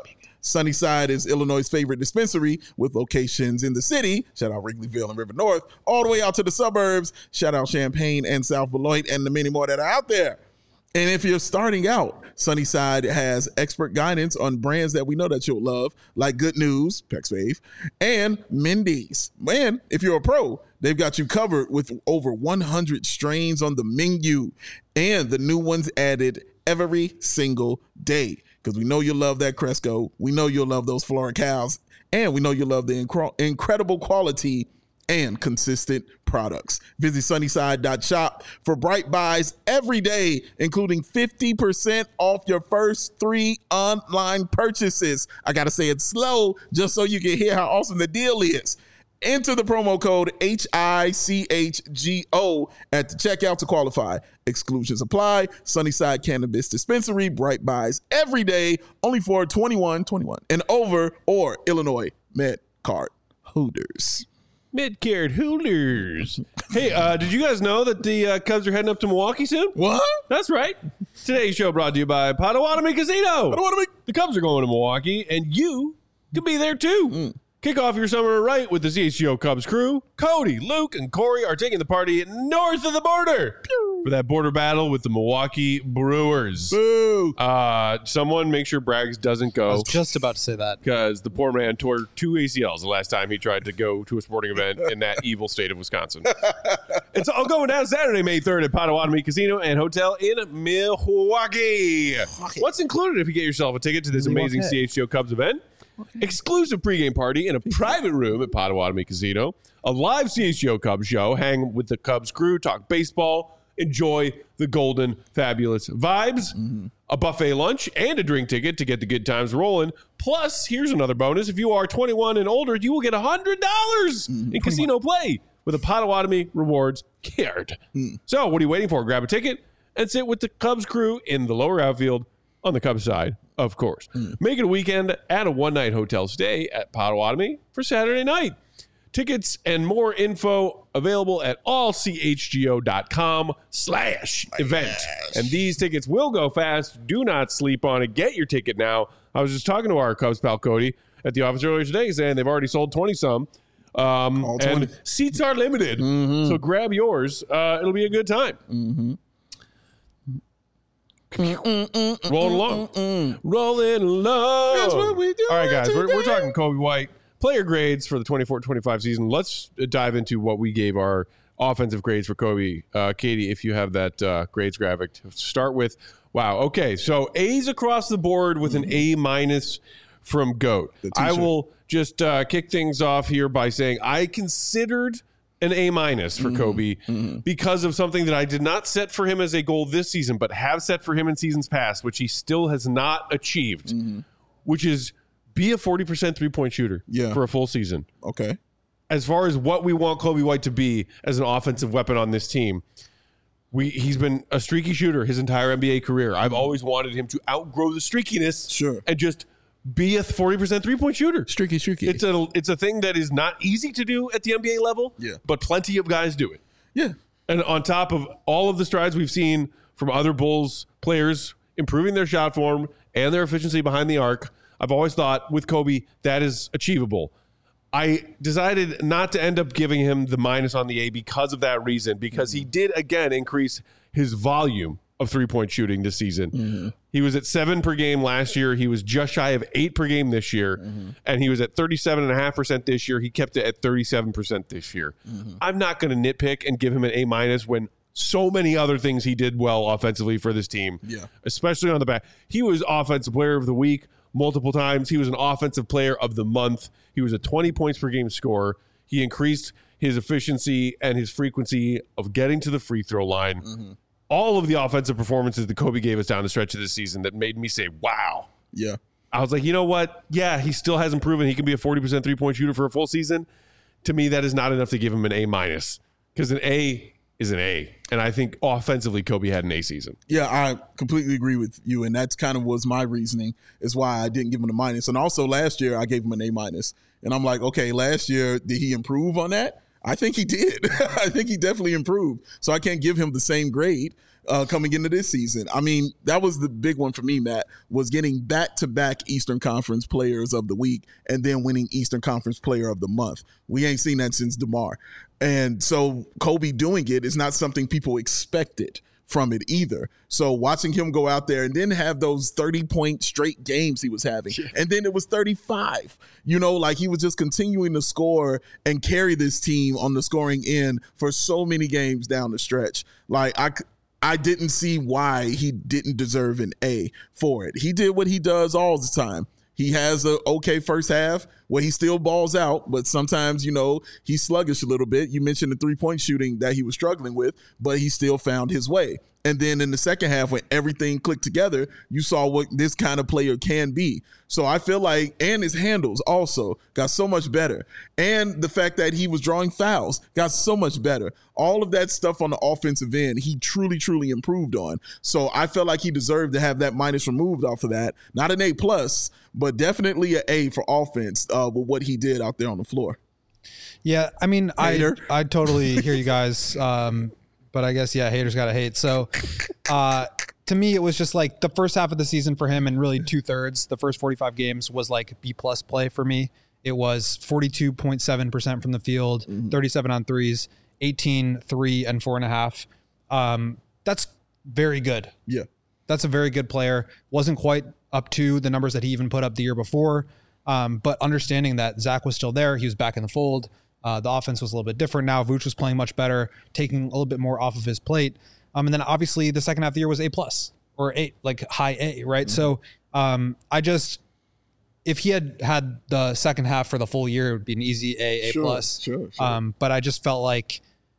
Sunnyside is Illinois' favorite dispensary with locations in the city. Shout out Wrigleyville and River North, all the way out to the suburbs. Shout out Champaign and South Beloit and the many more that are out there. And if you're starting out, Sunnyside has expert guidance on brands that we know that you'll love, like Good News, Peck's fave, and Mindy's. And if you're a pro, they've got you covered with over one hundred strains on the menu and the new ones added every single day. Because we know you love that Cresco, we know you'll love those Floricals, and we know you love the incre- incredible quality and consistent products. Visit sunnyside dot shop for bright buys every day, including fifty percent off your first three online purchases. I got to say it slow just so you can hear how awesome the deal is. Enter the promo code H I C H G O at the checkout to qualify. Exclusions apply. Sunnyside Cannabis Dispensary, bright buys every day, only for twenty-one, twenty-one and over, or Illinois Med Card holders. Mid-cared Hooters. Hey, uh, did you guys know that the uh, Cubs are heading up to Milwaukee soon? What? That's right. Today's show brought to you by Potawatomi Casino. Potawatomi. The Cubs are going to Milwaukee, and you could be there too. Mm. Kick off your summer right with the C H G O Cubs crew. Cody, Luke, and Corey are taking the party north of the border Pew. for that border battle with the Milwaukee Brewers. Boo. Uh, someone make sure Braggs doesn't go. I was just about to say that. Because the poor man tore two A C Ls the last time he tried to go to a sporting event in that evil state of Wisconsin. It's all going down Saturday, May third at Potawatomi Casino and Hotel in Milwaukee. What's included if you get yourself a ticket to this amazing C H G O Cubs event? Okay. Exclusive pregame party in a private room at Potawatomi Casino, a live C H G O Cubs show, hang with the Cubs crew, talk baseball, enjoy the golden, fabulous vibes, mm-hmm. a buffet lunch, and a drink ticket to get the good times rolling. Plus, here's another bonus. If you are twenty-one and older, you will get one hundred dollars mm-hmm. in casino play with a Potawatomi Rewards card. Mm. So what are you waiting for? Grab a ticket and sit with the Cubs crew in the lower outfield on the Cubs side. Of course. Mm. Make it a weekend at a one-night hotel stay at Potawatomi for Saturday night. Tickets and more info available at all c h g o dot com slash event. And these tickets will go fast. Do not sleep on it. Get your ticket now. I was just talking to our Cubs pal Cody at the office earlier today saying they've already sold twenty-some. Um, and seats are limited. Mm-hmm. So grab yours. Uh, it'll be a good time. Mm-hmm. Mm-mm-mm-mm-mm-mm. Rolling along. Mm-mm. Rolling along. That's what we do. All right, guys. We're, we're talking Kobe White. Player grades for the twenty-four twenty-five season. Let's dive into what we gave our offensive grades for Kobe. Uh, Katie, if you have that uh, grades graphic to start with. Wow. Okay. So A's across the board with an A minus from GOAT. I will just uh, kick things off here by saying I considered an A minus for mm-hmm. Kobe mm-hmm. because of something that I did not set for him as a goal this season, but have set for him in seasons past, which he still has not achieved, mm-hmm. which is be a forty percent three-point shooter yeah. for a full season. Okay. As far as what we want Kobe White to be as an offensive weapon on this team, we he's been a streaky shooter his entire N B A career. I've always wanted him to outgrow the streakiness sure. and just be a forty percent three-point shooter. Streaky, streaky. It's a it's a thing that is not easy to do at the N B A level, yeah. but plenty of guys do it. Yeah. And on top of all of the strides we've seen from other Bulls players improving their shot form and their efficiency behind the arc, I've always thought with Kobe that is achievable. I decided not to end up giving him the minus on the A because of that reason, because mm-hmm. he did, again, increase his volume of three-point shooting this season. Mm-hmm. He was at seven per game last year. He was just shy of eight per game this year. Mm-hmm. And he was at thirty-seven point five percent this year. He kept it at thirty-seven percent this year. Mm-hmm. I'm not going to nitpick and give him an A minus when so many other things he did well offensively for this team, yeah. especially on the back. He was Offensive Player of the Week multiple times. He was an Offensive Player of the Month. He was a twenty points per game scorer. He increased his efficiency and his frequency of getting to the free throw line. Mm-hmm. All of the offensive performances that Kobe gave us down the stretch of this season that made me say, wow. Yeah. I was like, you know what? Yeah, he still hasn't proven he can be a forty percent three-point shooter for a full season. To me, that is not enough to give him an A minus because an A is an A. And I think offensively, Kobe had an A season. Yeah, I completely agree with you. And that's kind of was my reasoning is why I didn't give him a minus. And also last year, I gave him an A minus. And I'm like, okay, last year, did he improve on that? I think he did. I think he definitely improved. So I can't give him the same grade. uh, coming into this season. I mean, that was the big one for me, Matt, was getting back-to-back Eastern Conference Players of the Week and then winning Eastern Conference Player of the Month. We ain't seen that since DeMar. And so Kobe doing it is not something people expected from it either. So watching him go out there and then have those thirty point straight games he was having, yeah. and then it was thirty-five, you know, like he was just continuing to score and carry this team on the scoring end for so many games down the stretch. Like I, I didn't see why he didn't deserve an A for it. He did what he does all the time. He has a okay first half where he still balls out, but sometimes, you know, he's sluggish a little bit. You mentioned the three-point shooting that he was struggling with, but he still found his way. And then in the second half, when everything clicked together, you saw what this kind of player can be. So I feel like, and his handles also got so much better. And the fact that he was drawing fouls got so much better. All of that stuff on the offensive end, he truly, truly improved on. So I felt like he deserved to have that minus removed off of that. Not an A plus, but definitely an A for offense uh, with what he did out there on the floor. Yeah, I mean, Hater. I I totally hear you guys. Um, But I guess, yeah, haters got to hate. So uh, to me, it was just like the first half of the season for him and really two thirds, the first forty-five games was like B plus play for me. It was forty-two point seven percent from the field, mm-hmm. thirty-seven on threes, eighteen, three and four and a half. Um, that's very good. Yeah. That's a very good player. Wasn't quite up to the numbers that he even put up the year before. Um, but understanding that Zach was still there, he was back in the fold. Uh, the offense was a little bit different now. Vooch was playing much better, taking a little bit more off of his plate. Um, and then obviously the second half of the year was A plus or A, like high A, right? Mm-hmm. So um, I just, if he had had the second half for the full year, it would be an easy A, A sure, plus. Sure, sure. Um, but I just felt like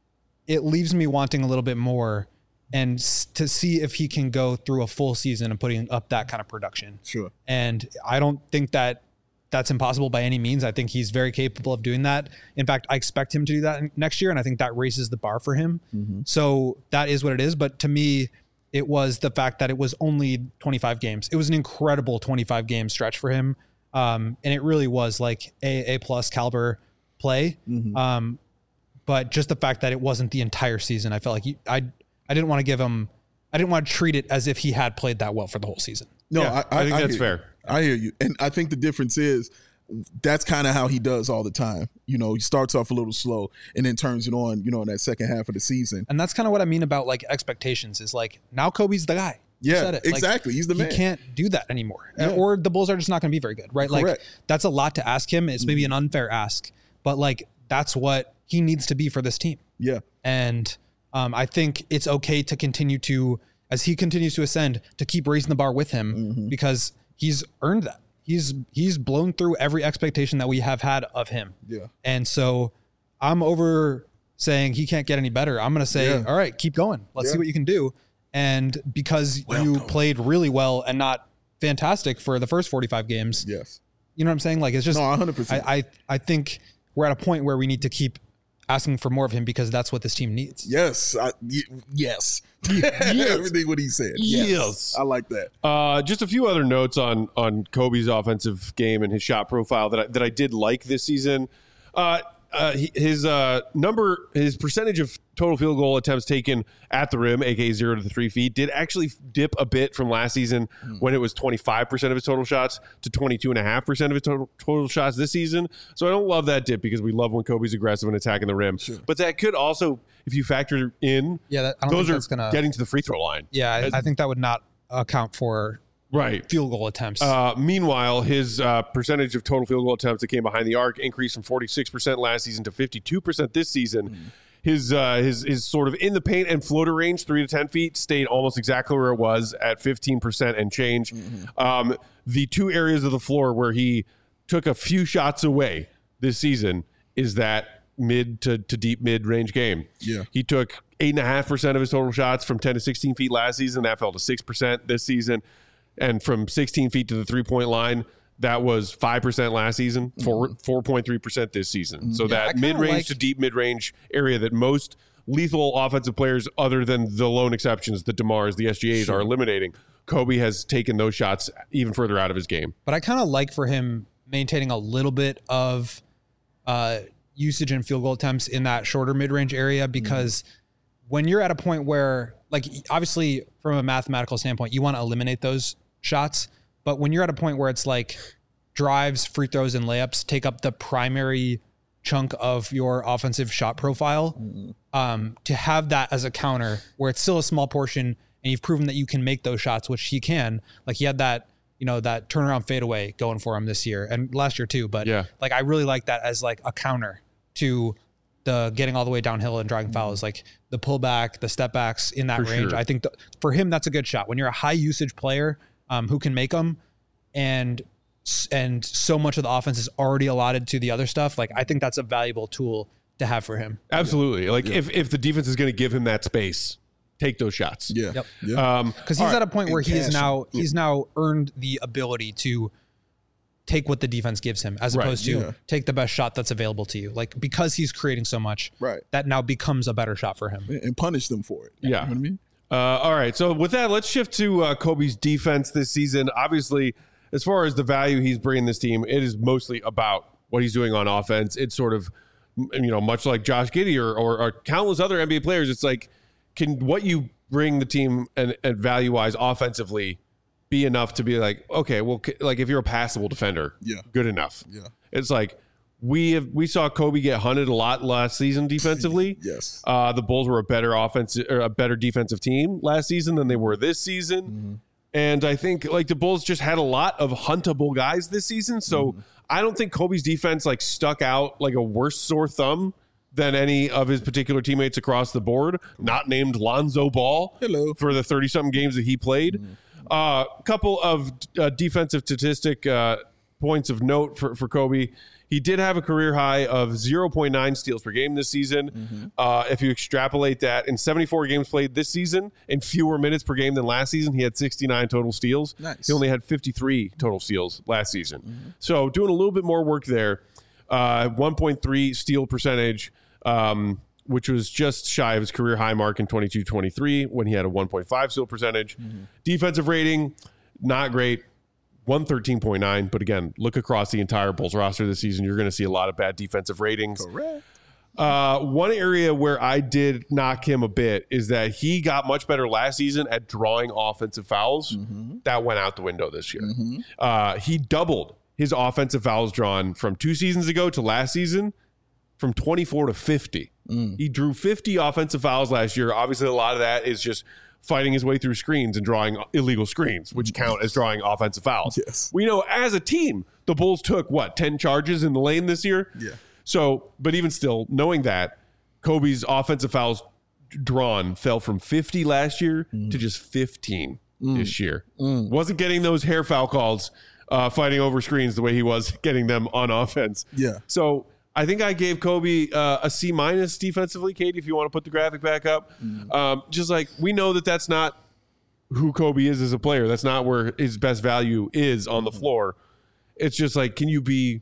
it leaves me wanting a little bit more and s- to see if he can go through a full season and putting up that kind of production. Sure. And I don't think that that's impossible by any means. I think he's very capable of doing that. In fact, I expect him to do that next year, and I think that raises the bar for him. Mm-hmm. So that is what it is. But to me, it was the fact that it was only twenty-five games. It was an incredible twenty-five game stretch for him. Um, and it really was like a A plus caliber play. Mm-hmm. Um, but just the fact that it wasn't the entire season, I felt like he, I, I didn't want to give him, I didn't want to treat it as if he had played that well for the whole season. No, yeah, I, I, I think I that's fair. You. I hear you. And I think the difference is that's kind of how he does all the time. You know, he starts off a little slow and then turns it on, you know, in that second half of the season. And that's kind of what I mean about like expectations is like, now Kobe's the guy. Yeah, said it. exactly. Like, he's the man. He can't do that anymore. Yeah. Or the Bulls are just not going to be very good, right? Correct. Like that's a lot to ask him. It's maybe an unfair ask, but like that's what he needs to be for this team. Yeah. And um, I think it's okay to continue to, as he continues to ascend, to keep raising the bar with him mm-hmm. because he's earned that. He's he's blown through every expectation that we have had of him. Yeah. And so I'm over saying he can't get any better. I'm going to say, yeah. all right, keep going. Let's yeah. see what you can do. And because well you done. played really well and not fantastic for the first forty-five games. Yes. You know what I'm saying? Like it's just, no, one hundred percent. I, I, I think we're at a point where we need to keep asking for more of him because that's what this team needs. Yes. I, y- yes. yes. Everything what he said. Yes. yes. I like that. Uh, just a few other notes on on Kobe's offensive game and his shot profile that I, that I did like this season. Uh, uh, his uh, number, his percentage of total field goal attempts taken at the rim, aka zero to the three feet, did actually dip a bit from last season mm. when it was twenty-five percent of his total shots to twenty-two point five percent of his total, total shots this season. So I don't love that dip because we love when Kobe's aggressive and attacking the rim. Sure. But that could also, if you factor in, yeah, that, I don't those think are that's gonna, getting to the free throw line. Yeah, I, I think that would not account for right field goal attempts. Uh, meanwhile, his uh, percentage of total field goal attempts that came behind the arc increased from forty-six percent last season to fifty-two percent this season. Mm. His uh, his his sort of in the paint and floater range, three to ten feet, stayed almost exactly where it was at fifteen percent and change. Mm-hmm. Um, the two areas of the floor where he took a few shots away this season is that mid to, to deep mid range game. Yeah, he took eight and a half percent of his total shots from ten to sixteen feet last season. That fell to six percent this season. And from sixteen feet to the three-point line, that was five percent last season, four, four point three percent this season. So yeah, that mid-range like, to deep mid-range area that most lethal offensive players, other than the lone exceptions, the DeMars, the S G As, sure. are eliminating, Kobe has taken those shots even further out of his game. But I kind of like for him maintaining a little bit of uh, usage and field goal attempts in that shorter mid-range area because mm. when you're at a point where, like obviously from a mathematical standpoint, you want to eliminate those shots. But when you're at a point where it's like drives, free throws, and layups take up the primary chunk of your offensive shot profile, mm-hmm. um, to have that as a counter where it's still a small portion and you've proven that you can make those shots, which he can. Like he had that, you know, that turnaround fadeaway going for him this year and last year too. But yeah. like I really like that as like a counter to the getting all the way downhill and drawing fouls, like the pullback, the step backs in that for range. Sure. I think th- for him, that's a good shot when you're a high usage player um, who can make them, and and so much of the offense is already allotted to the other stuff. Like I think that's a valuable tool to have for him. Absolutely. Yeah. Like yeah. if if the defense is going to give him that space, take those shots. Yeah. Yep. Yeah. Um, because he's right. at a point where And he is cash. now Yeah. he's now earned the ability to take what the defense gives him, as Right. opposed to Yeah. take the best shot that's available to you. Like because he's creating so much, Right. that now becomes a better shot for him. And punish them for it. Yeah. You know what I mean? Uh, all right. So with that, let's shift to uh, Kobe's defense this season. Obviously, as far as the value he's bringing this team, it is mostly about what he's doing on offense. It's sort of, you know, much like Josh Giddey or, or, or countless other N B A players. It's like, can what you bring the team and, and value-wise offensively be enough to be like, okay, well, like if you're a passable defender, Yeah. good enough. Yeah. It's like we have we saw Kobe get hunted a lot last season defensively. Yes. Uh, the Bulls were a better offensive or a better defensive team last season than they were this season. Mm-hmm. And I think like the Bulls just had a lot of huntable guys this season. So Mm-hmm. I don't think Kobe's defense like stuck out like a worse sore thumb than any of his particular teammates across the board, not named Lonzo Ball. Hello. For the thirty-something games that he played. A uh, couple of uh, defensive statistic uh, points of note for, for Kobe. He did have a career high of zero point nine steals per game this season. Mm-hmm. Uh, if you extrapolate that, in seventy-four games played this season, in fewer minutes per game than last season, he had sixty-nine total steals. Nice. He only had fifty-three total steals last season. Mm-hmm. So doing a little bit more work there. Uh, one point three steal percentage, um, which was just shy of his career high mark in twenty-two twenty-three when he had a one point five steal percentage. Mm-hmm. Defensive rating, not great. one thirteen point nine, but again, look across the entire Bulls roster this season. You're going to see a lot of bad defensive ratings. Correct. Uh, one area where I did knock him a bit is that he got much better last season at drawing offensive fouls. Mm-hmm. That went out the window this year. Mm-hmm. Uh, he doubled his offensive fouls drawn from two seasons ago to last season from twenty-four to fifty. Mm. He drew fifty offensive fouls last year. Obviously, a lot of that is just fighting his way through screens and drawing illegal screens, which count as drawing offensive fouls. Yes. We know as a team, the Bulls took, what, ten charges in the lane this year? Yeah. So, but even still, knowing that, Kobe's offensive fouls drawn fell from fifty last year mm. to just fifteen mm. this year. Mm. Wasn't getting those hair foul calls, uh, fighting over screens the way he was getting them on offense. Yeah. So I think I gave Kobe uh, a C minus defensively, Katie, if you want to put the graphic back up. Mm. Um, just like we know that that's not who Kobe is as a player. That's not where his best value is on the floor. It's just like, can you be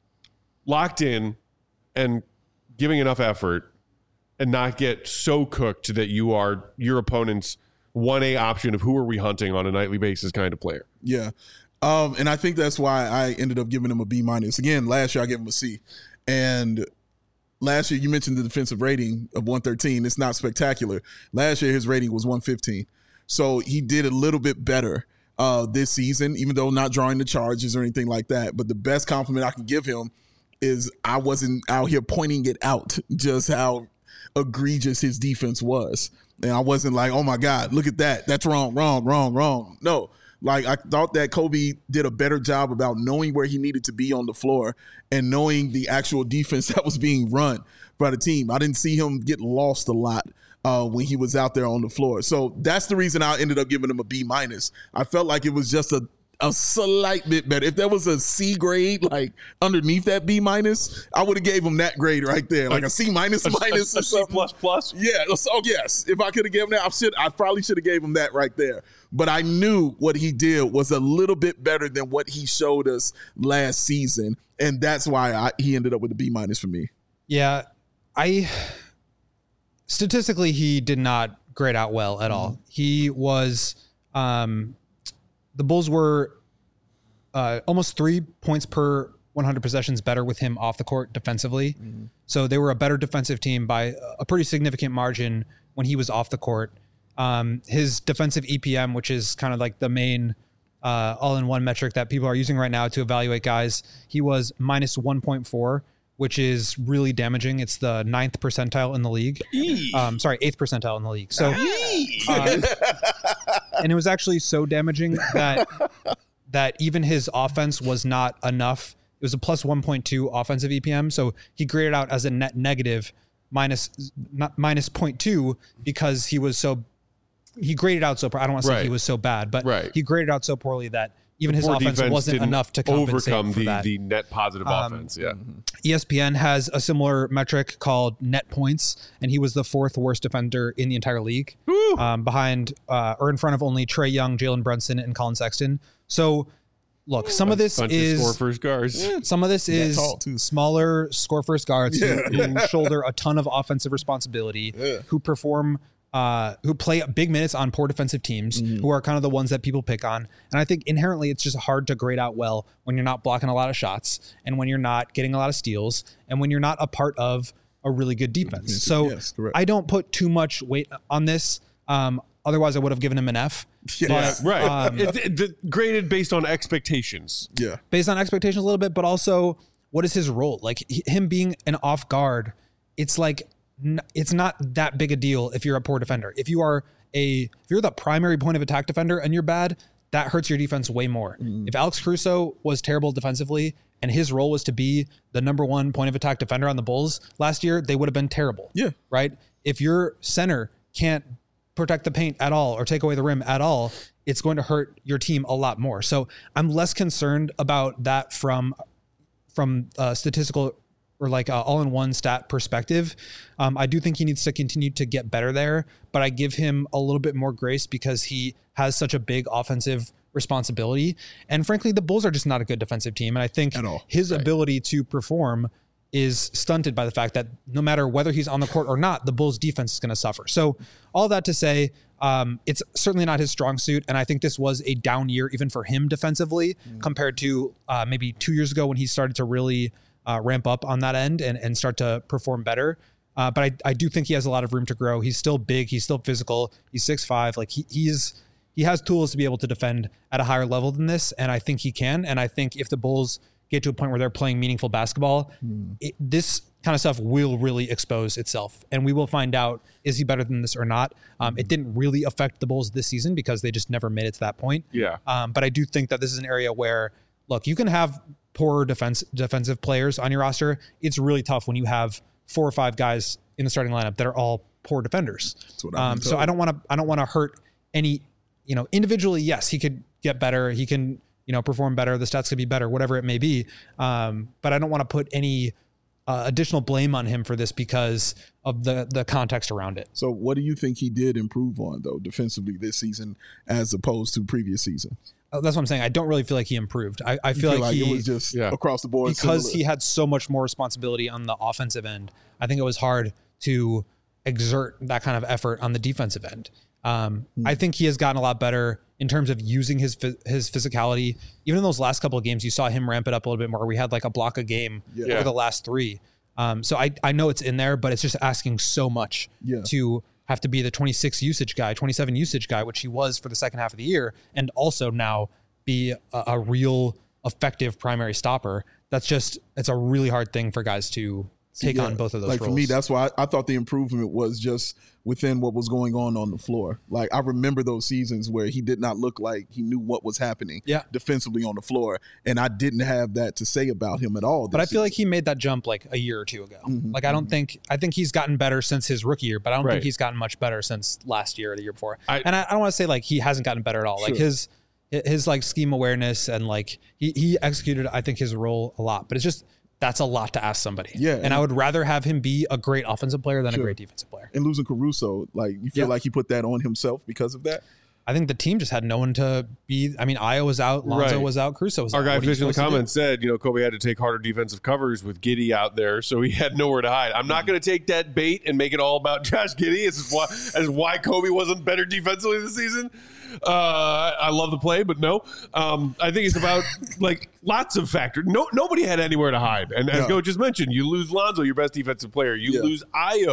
locked in and giving enough effort and not get so cooked that you are your opponent's one A option of who are we hunting on a nightly basis kind of player? Yeah. Um, and I think that's why I ended up giving him a B minus. Again, last year I gave him a C. And last year you mentioned the defensive rating of one thirteen. It's not spectacular. Last year his rating was one fifteen. So he did a little bit better uh, this season, even though not drawing the charges or anything like that. But the best compliment I can give him is I wasn't out here pointing it out, just how egregious his defense was. And I wasn't like, oh my God, look at that. That's wrong, wrong, wrong, wrong. No. Like, I thought that Kobe did a better job about knowing where he needed to be on the floor and knowing the actual defense that was being run by the team. I didn't see him get lost a lot uh, when he was out there on the floor. So that's the reason I ended up giving him a B minus. I felt like it was just a, a slight bit better. If there was a C grade, like underneath that B minus, I would have gave him that grade right there, like a C minus minus a, a, or something. C plus plus. Yeah. So yes, if I could have given that, I should. I probably should have gave him that right there. But I knew what he did was a little bit better than what he showed us last season, and that's why I, he ended up with a B minus for me. Yeah, I statistically he did not grade out well at all. He was um, the Bulls were uh, almost three points per one hundred possessions better with him off the court defensively. Mm-hmm. So they were a better defensive team by a pretty significant margin when he was off the court. Um, his defensive E P M, which is kind of like the main uh, all-in-one metric that people are using right now to evaluate guys, he was minus one point four, which is really damaging. It's the ninth percentile in the league. Um, sorry, eighth percentile in the league. So, uh, and it was actually so damaging that that even his offense was not enough. It was a plus one point two offensive E P M. So he graded out as a net negative minus not minus zero point two because he was so he graded out so poor. I don't want to say Right. he was so bad, but Right. he graded out so poorly that even his Poor offense defense wasn't didn't enough to compensate overcome for the, that. the net positive Um, offense. Yeah. E S P N has a similar metric called net points, and he was the fourth worst defender in the entire league, um, behind uh, or in front of only Trae Young, Jalen Brunson, and Colin Sexton. So, look, some of this Bunch of is score first guards. some of this is tall, too. smaller score first guards who- Yeah. who, shoulder a ton of offensive responsibility, Yeah. who perform, uh, who play big minutes on poor defensive teams, Mm-hmm. who are kind of the ones that people pick on. And I think inherently it's just hard to grade out well when you're not blocking a lot of shots and when you're not getting a lot of steals and when you're not a part of a really good defense. So Yes, correct. I don't put too much weight on this. Um, otherwise, I would have given him an F. Yeah. But, Right. um, It- it- the- graded based on expectations. Yeah. based on expectations a little bit, but also what is his role? Like he- him being an off guard, it's like n- it's not that big a deal if you're a poor defender. If you are a if you're the primary point of attack defender and you're bad, that hurts your defense way more. Mm-hmm. If Alex Caruso was terrible defensively and his role was to be the number one point of attack defender on the Bulls last year, they would have been terrible. Yeah. Right? If your center can't protect the paint at all or take away the rim at all, it's going to hurt your team a lot more. So I'm less concerned about that from from a statistical or like a all-in-one stat perspective. Um, I do think he needs to continue to get better there, but I give him a little bit more grace because he has such a big offensive responsibility. And frankly, the Bulls are just not a good defensive team. And I think At all. his ability to perform is stunted by the fact that no matter whether he's on the court or not, the Bulls defense is going to suffer. So all that to say, um, it's certainly not his strong suit. And I think this was a down year even for him defensively compared to uh, maybe two years ago when he started to really uh, ramp up on that end and, and start to perform better. Uh, but I, I do think he has a lot of room to grow. He's still big. He's still physical. He's six five. Like he, he's, he has tools to be able to defend at a higher level than this. And I think he can. And I think if the Bulls get to a point where they're playing meaningful basketball, it, this kind of stuff will really expose itself. And we will find out, is he better than this or not? Um, it didn't really affect the Bulls this season because they just never made it to that point. Yeah. Um, but I do think that this is an area where, look, you can have poor defense defensive players on your roster. It's really tough when you have four or five guys in the starting lineup that are all poor defenders. what I've Um, been so told. I don't want to. I don't want to hurt any. You know, individually, yes, he could get better. He can, you know, perform better. The stats could be better, whatever it may be. Um, but I don't want to put any uh, additional blame on him for this because of the the context around it. So what do you think he did improve on, though, defensively this season as opposed to previous season? Uh, That's what I'm saying. I don't really feel like he improved. I, I You feel, like, he it was just Yeah. across the board because similar? he had so much more responsibility on the offensive end. I think it was hard to exert that kind of effort on the defensive end. Um, Hmm. I think he has gotten a lot better in terms of using his phys- his physicality. Even in those last couple of games, you saw him ramp it up a little bit more. We had like a block a game Yeah. over the last three. Um, so I I know it's in there, but it's just asking so much Yeah. to have to be the twenty-six usage guy, twenty-seven usage guy, which he was for the second half of the year, and also now be a, a real effective primary stopper. That's just, it's a really hard thing for guys to take Yeah. on both of those like roles. for me, that's why I, I thought the improvement was just within what was going on on the floor. Like I remember those seasons where he did not look like he knew what was happening Yeah. defensively on the floor, and I didn't have that to say about him at all. but I this feel like season. he made that jump like a year or two ago. Mhm. Like I don't think, I think he's gotten better since his rookie year, but I don't Right. think he's gotten much better since last year or the year before. I- and I, I don't want to say like he hasn't gotten better at all. Like Sure. his, his like scheme awareness and like he, he executed, I think, his role a lot, but it's just, that's a lot to ask somebody. Yeah. And I would rather have him be a great offensive player than Sure. a great defensive player. and losing Caruso, like you feel Yeah. like he put that on himself because of that. I think the team just had no one to be. I mean, Io was out, Lonzo Right. was out, Caruso was Our out. guy What are you Fish in the supposed to do? comments said, you know, Kobe had to take harder defensive covers with Giddey out there, so he had nowhere to hide. I'm not going to take that bait and make it all about Josh Giddey. This is why, as why Kobe wasn't better defensively this season. Uh, I love the play, but no. Um, I think it's about like lots of factors. No, nobody had anywhere to hide, and as No. Go just mentioned, you lose Lonzo, your best defensive player. You Yeah. lose Io,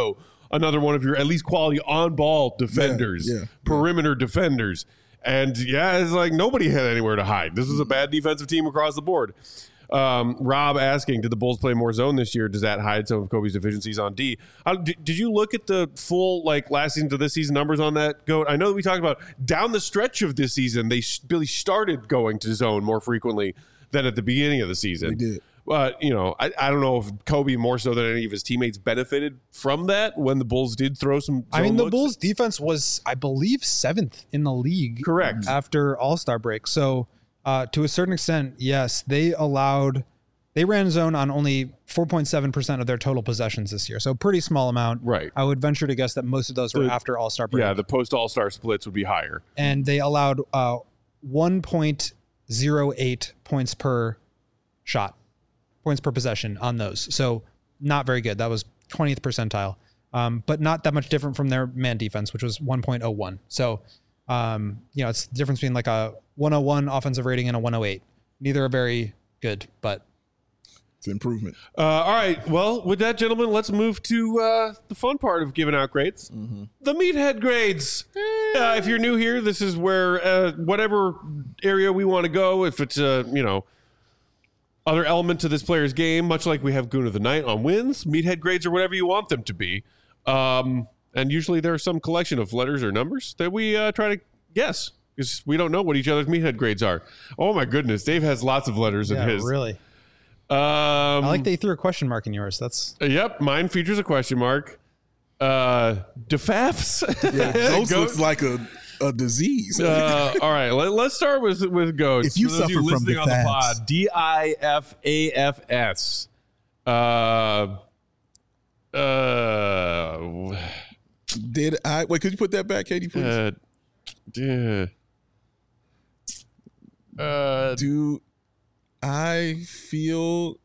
another one of your at least quality on-ball defenders, Yeah, yeah, perimeter defenders. And yeah, it's like nobody had anywhere to hide. This was a bad defensive team across the board. Um, Rob asking, did the Bulls play more zone this year? Does that hide some of Kobe's deficiencies on D? How, did, did you look at the full like last season to this season numbers on that, Goat? I know that we talked about down the stretch of this season, they really started going to zone more frequently than at the beginning of the season. They did. But, you know, I, I don't know if Kobe more so than any of his teammates benefited from that when the Bulls did throw some zone I mean, the looks. Bulls defense was, I believe, seventh in the league. Correct. After All-Star break. So uh, to a certain extent, yes, they allowed, they ran zone on only four point seven percent of their total possessions this year. So pretty small amount. Right. I would venture to guess that most of those were The- after All-Star break. Yeah, the post-All-Star splits would be higher. And they allowed uh, one point oh eight points per shot, points per possession on those. So not very good. That was twentieth percentile, um, but not that much different from their man defense, which was one point oh one. So, um, you know, it's the difference between like a one oh one offensive rating and a one oh eight. Neither are very good, but It's an improvement. Uh, all right. Well, with that, gentlemen, let's move to uh, the fun part of giving out grades. The meathead grades. Uh, if you're new here, this is where uh, whatever area we want to go, if it's a, you know, other element to this player's game, much like we have Goon of the Night on wins, meathead grades are whatever you want them to be. Um, and usually there's some collection of letters or numbers that we uh, try to guess because we don't know what each other's meathead grades are. Oh, my goodness. Dave has lots of letters in yeah, his. really. Um, I like that you threw a question mark in yours. That's Yep, mine features a question mark. Uh, defafs. Yeah, those Goat. looks like a, a disease. Uh, all right, let, let's start with with goats. If you For those of suffer from listening on the defafs. pod, D I F A F S. Uh, uh, Did I wait? Could you put that back, Katie, please? uh, yeah. Uh, Do I feel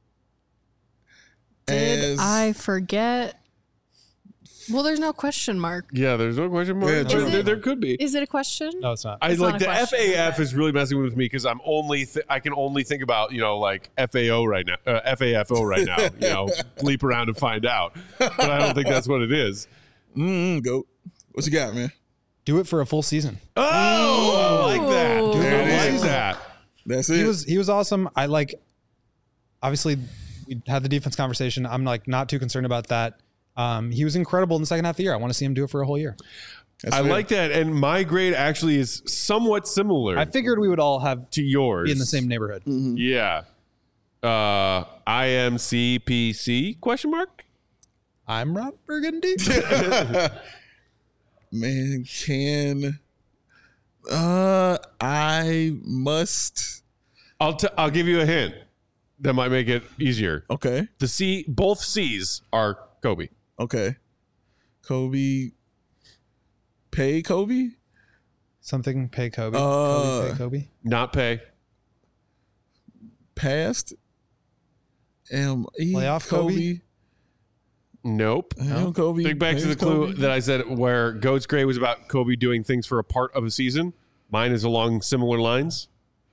Did as I forget? Well, there's no question mark. yeah, there's no question mark. Yeah, There- Is there, it- there could be. Is it a question? no, it's not. I It's like not a the F question, A F okay. is really messing with me because I'm only th- I can only think about you know like F A O right now, uh, F A F O right now. You know, leap around and find out, but I don't think that's what it is. mm, go? What you got, man? Do it for a full season. Oh, I like that. Ooh. There I it like is. that. That's it. He was he was awesome. I like. Obviously, we had the defense conversation. I'm like not too concerned about that. Um, he was incredible in the second half of the year. I want to see him do it for a whole year. That's I fair. like that, and my grade actually is somewhat similar I figured we would all have to yours. be in the same neighborhood. Yeah. Uh, I M C P C question mark. I'm Rob Burgundy. Man, can uh I must I'll t- I'll give you a hint that might make it easier. okay. The C, both C's are Kobe. Okay. Kobe pay Kobe? Something pay Kobe. Uh, Kobe, pay Kobe. Not pay. Past M E Playoff Kobe? Kobe. Nope. No. Kobe. Think back to the Pays clue Kobe. that I said where Goat's grade was about Kobe doing things for a part of a season. Mine is along similar lines.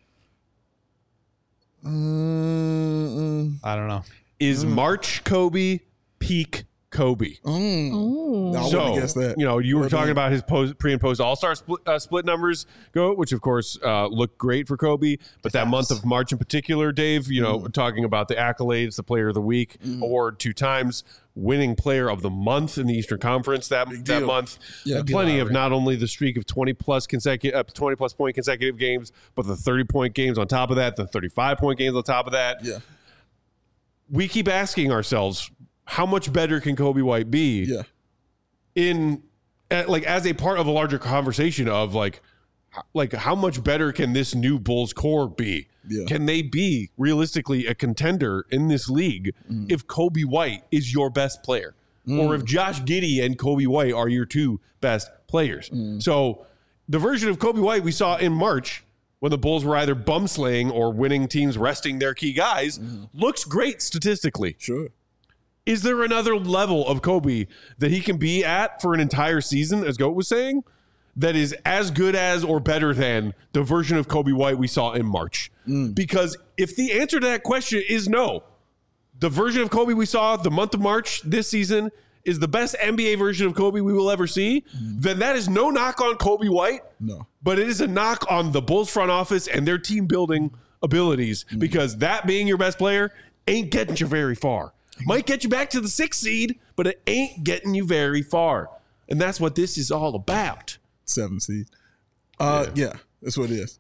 Mm, I don't know. Is March Kobe peak Kobe? mm, Ooh. No, I So, wouldn't have guessed that. you know, you were Would've talking been- about his post, pre and post All Star split, uh, split numbers go, which of course uh, looked great for Kobe. But that month of March in particular, Dave, you know, talking about the accolades, the Player of the Week award two times, winning Player of the Month in the Eastern Conference that that deal. month. Yeah, And big plenty deal, of right. not only the streak of twenty plus consecutive, uh, twenty plus point consecutive games, but the thirty point games on top of that, the thirty-five point games on top of that. Yeah. We keep asking ourselves, how much better can Kobe White be? Yeah. in uh, like as a part of a larger conversation of like h- like how much better can this new Bulls core be? Yeah. Can they be realistically a contender in this league if Kobe White is your best player? Or if Josh Giddey and Kobe White are your two best players? So the version of Kobe White we saw in March when the Bulls were either bum slaying or winning teams resting their key guys looks great statistically. Sure. Is there another level of Kobe that he can be at for an entire season, as Goat was saying, that is as good as or better than the version of Kobe White we saw in March? Because if the answer to that question is no, the version of Kobe we saw the month of March this season is the best N B A version of Kobe we will ever see, mm-hmm. then that is no knock on Kobe White. No. But it is a knock on the Bulls front office and their team building abilities, mm-hmm. because that being your best player ain't getting you very far. Might get you back to the sixth seed, but it ain't getting you very far. And that's what this is all about. Seven seed. Uh, yeah. yeah, that's what it is.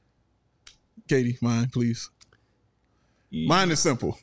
Katie, mine, please. Yeah. Mine is simple.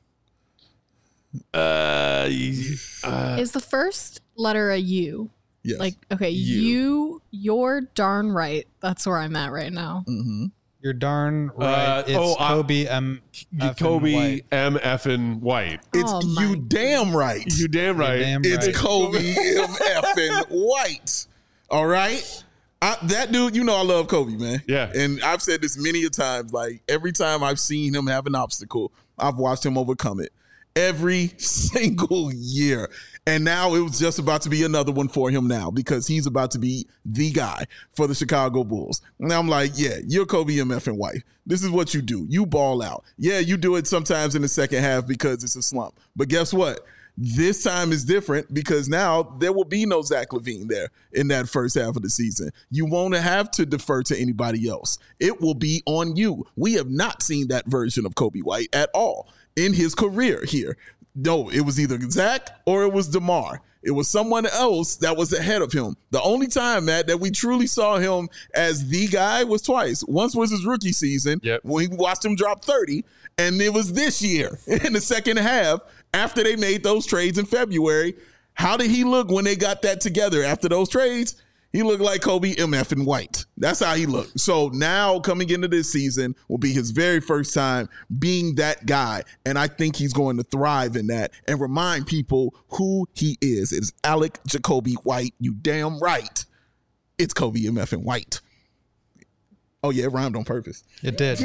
Uh, uh, is the first letter a U? Yes. Like, okay, you. you, you're darn right. That's where I'm at right now. Mm-hmm. You're darn right. Uh, it's oh, Kobe M. Kobe White. M. Effin White. It's oh you damn right. You damn right. Damn it's right. Kobe M. Effin White. All right. I, that dude, you know I love Kobe, man. Yeah. And I've said this many a times. Like every time I've seen him have an obstacle, I've watched him overcome it. Every single year. And now it was just about to be another one for him now because he's about to be the guy for the Chicago Bulls. And I'm like, yeah, you're Kobe M. Effin White. This is what you do. You ball out. Yeah, you do it sometimes in the second half because it's a slump. But guess what? This time is different because now there will be no Zach LaVine there in that first half of the season. You won't have to defer to anybody else. It will be on you. We have not seen that version of Kobe White at all in his career here. No, it was either Zach or it was DeMar. It was someone else that was ahead of him. The only time, Matt, that we truly saw him as the guy was twice. Once was his rookie season yep. when we watched him drop thirty, and it was this year in the second half after they made those trades in February. How did he look when they got that together after those trades? He looked like Kobe M. Effin White. That's how he looked. So now coming into this season will be his very first time being that guy. And I think he's going to thrive in that and remind people who he is. It's Alec Jacoby White. You damn right. It's Kobe M. Effin White. Oh, yeah, it rhymed on purpose. It did.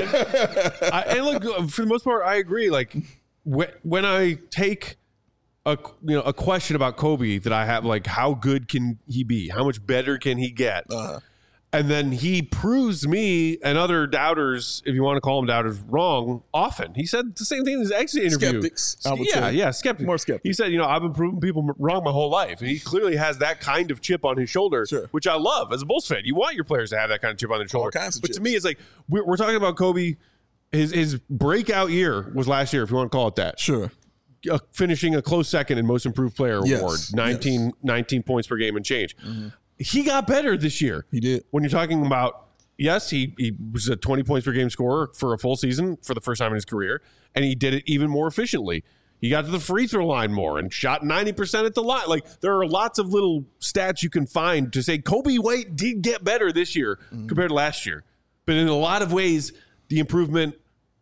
I, and look, for the most part, I agree. Like when I take a you know a question about Kobe that I have, like, how good can he be? How much better can he get? Uh-huh. And then he proves me and other doubters, if you want to call them doubters, wrong often. He said the same thing in his exit interview. Skeptics, I would yeah, say. yeah, skeptics. More skeptics. He said, you know, I've been proving people wrong my whole life. And he clearly has that kind of chip on his shoulder, sure. which I love. As a Bulls fan, you want your players to have that kind of chip on their shoulder. All kinds of but chips. to me, it's like, we're, we're talking about Kobe. His, his breakout year was last year, if you want to call it that. Sure. Uh, finishing a close second in Most Improved Player yes. award, nineteen, yes. nineteen points per game and change. Mm-hmm. He got better this year. He did. When you're talking about, yes, he, he was a twenty points per game scorer for a full season for the first time in his career, and he did it even more efficiently. He got to the free throw line more and shot ninety percent at the line. Like, there are lots of little stats you can find to say Kobe White did get better this year mm-hmm. compared to last year. But in a lot of ways, the improvement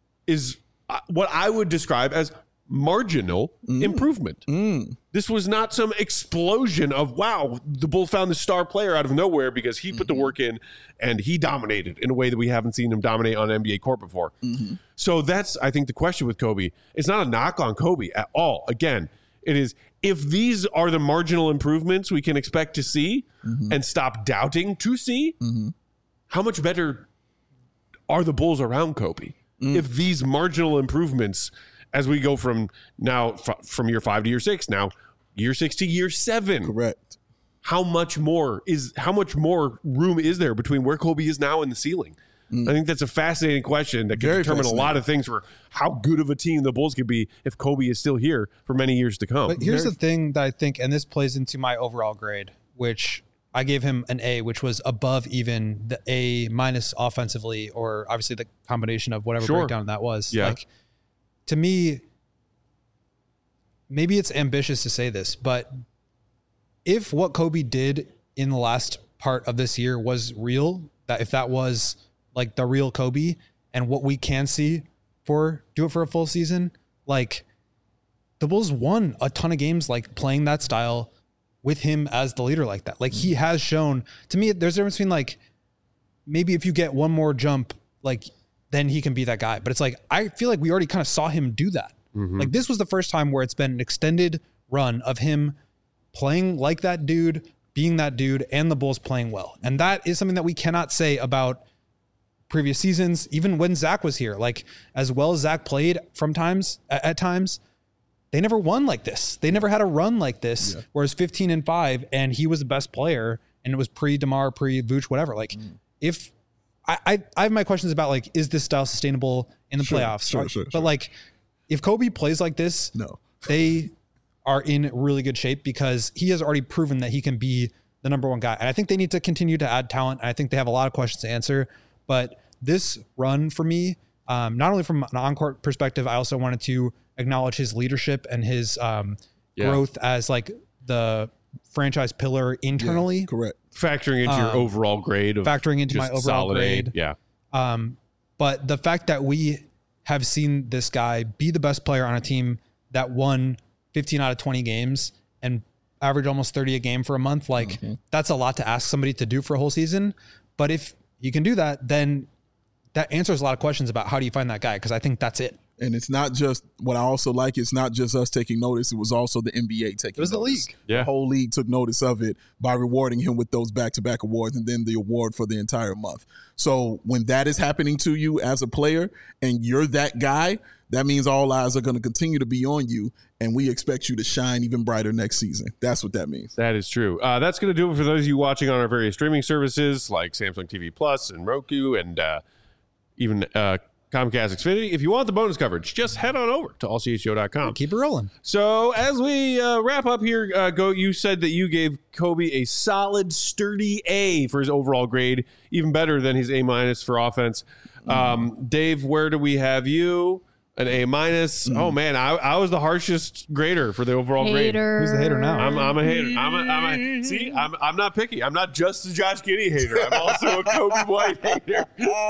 is what I would describe as marginal mm. improvement. Mm. This was not some explosion of, wow, the Bulls found the star player out of nowhere because he put mm-hmm. the work in and he dominated in a way that we haven't seen him dominate on N B A court before. Mm-hmm. So that's, I think, the question with Kobe. It's not a knock on Kobe at all. Again, it is, if these are the marginal improvements we can expect to see mm-hmm. and stop doubting to see, mm-hmm. how much better are the Bulls around Kobe? Mm. If these marginal improvements, as we go from now f- from year five to year six, now year six to year seven. Correct. How much more is how much more room is there between where Kobe is now and the ceiling? Mm. I think that's a fascinating question that can Very determine a lot of things for how good of a team the Bulls could be if Kobe is still here for many years to come. But here's Very the thing that I think, and this plays into my overall grade, which I gave him an A, which was above even the A minus offensively, or obviously the combination of whatever Sure. breakdown that was. Yeah. Like, to me, maybe it's ambitious to say this, but if what Kobe did in the last part of this year was real, that if that was like the real Kobe and what we can see for do it for a full season, like the Bulls won a ton of games, like playing that style with him as the leader like that. Like he has shown to me, there's a difference between like, maybe if you get one more jump, like then he can be that guy. But it's like, I feel like we already kind of saw him do that. Mm-hmm. Like this was the first time where it's been an extended run of him playing like that dude, being that dude, and the Bulls playing well. And that is something that we cannot say about previous seasons, even when Zach was here. Like as well as Zach played from times at, at times, they never won like this. They never had a run like this. Yeah. Whereas fifteen and five, and he was the best player, and it was pre DeMar, pre Vooch, whatever. Like, mm. if I, I, I have my questions about like, is this style sustainable in the sure, playoffs? Sure, sure, but sure. like, if Kobe plays like this, no, they are in really good shape because he has already proven that he can be the number one guy. And I think they need to continue to add talent. I think they have a lot of questions to answer. But this run for me, um, not only from an on-court perspective, I also wanted to acknowledge his leadership and his um, yeah. growth as like the franchise pillar internally. Yeah, correct. Factoring into um, your overall grade of factoring into my overall grade. A, yeah. Um, but the fact that we have seen this guy be the best player on a team that won fifteen out of twenty games and average almost thirty a game for a month, like mm-hmm. that's a lot to ask somebody to do for a whole season. But if you can do that, then that answers a lot of questions about how do you find that guy? Because I think that's it. And it's not just what I also like. It's not just us taking notice. It was also the N B A taking notice. It was notice. The league. Yeah. The whole league took notice of it by rewarding him with those back-to-back awards and then the award for the entire month. So when that is happening to you as a player and you're that guy, that means all eyes are going to continue to be on you, and we expect you to shine even brighter next season. That's what that means. That is true. Uh, that's going to do it for those of you watching on our various streaming services like Samsung T V Plus and Roku and uh, even uh, Comcast Xfinity. If you want the bonus coverage, just head on over to all c h o dot com. Keep it rolling. So as we uh, wrap up here, uh, Go, you said that you gave Kobe a solid, sturdy A for his overall grade, even better than his A minus for offense. Um, mm. Dave, where do we have you? An A minus. Mm. Oh man, I, I was the harshest grader for the overall hater. grade. Who's the hater now? I'm, I'm a hater. I'm a, I'm a see. I'm I'm not picky. I'm not just a Josh Giddey hater. I'm also a Kobe White hater.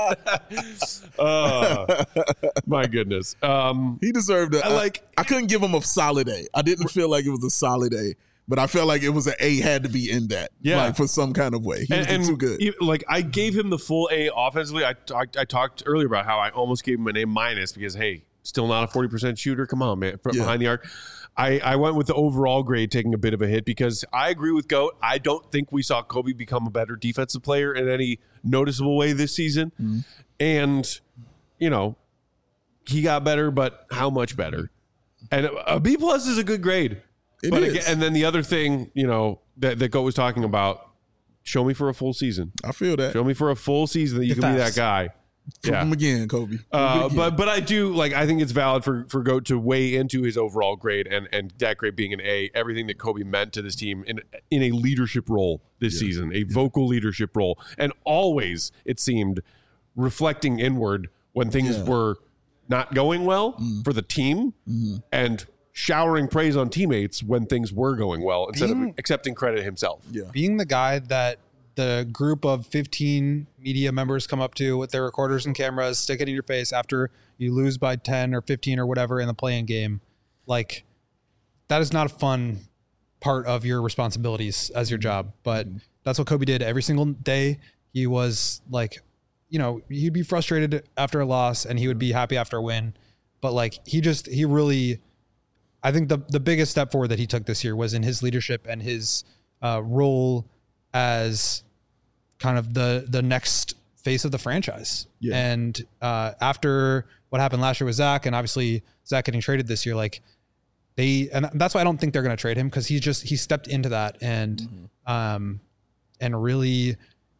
uh, my goodness. Um, he deserved it. I like. I couldn't give him a solid A. I didn't feel like it was a solid A. But I felt like it was an A had to be in that, yeah, like for some kind of way. He and, was too good. He, like I gave him the full A offensively. I, I I talked earlier about how I almost gave him an A minus because hey, still not a forty percent shooter. Come on, man, yeah. behind the arc. I I went with the overall grade taking a bit of a hit because I agree with Goat. I don't think we saw Kobe become a better defensive player in any noticeable way this season, mm-hmm. and you know he got better, but how much better? And a B plus is a good grade. It but is. Again, and then the other thing, you know, that, that Goat was talking about, show me for a full season. I feel that. Show me for a full season that you the can facts. be that guy. Prove yeah. him again, Kobe. Uh, again. But but I do, like, I think it's valid for, for Goat to weigh into his overall grade and, and that grade being an A, everything that Kobe meant to this team in, in a leadership role this yeah. season, a yeah. vocal leadership role. And always, it seemed, reflecting inward when things yeah. were not going well mm. for the team mm-hmm. and showering praise on teammates when things were going well instead being, of accepting credit himself. Yeah. Being the guy that the group of fifteen media members come up to with their recorders and cameras, stick it in your face after you lose by ten or fifteen or whatever in the play-in game. Like, that is not a fun part of your responsibilities as your job. But that's what Kobe did every single day. He was like, you know, he'd be frustrated after a loss and he would be happy after a win. But like, he just, he really... I think the the biggest step forward that he took this year was in his leadership and his uh, role as kind of the the next face of the franchise. Yeah. And uh, after what happened last year with Zach, and obviously Zach getting traded this year, like they, and that's why I don't think they're going to trade him because he just he stepped into that and mm-hmm. um and really,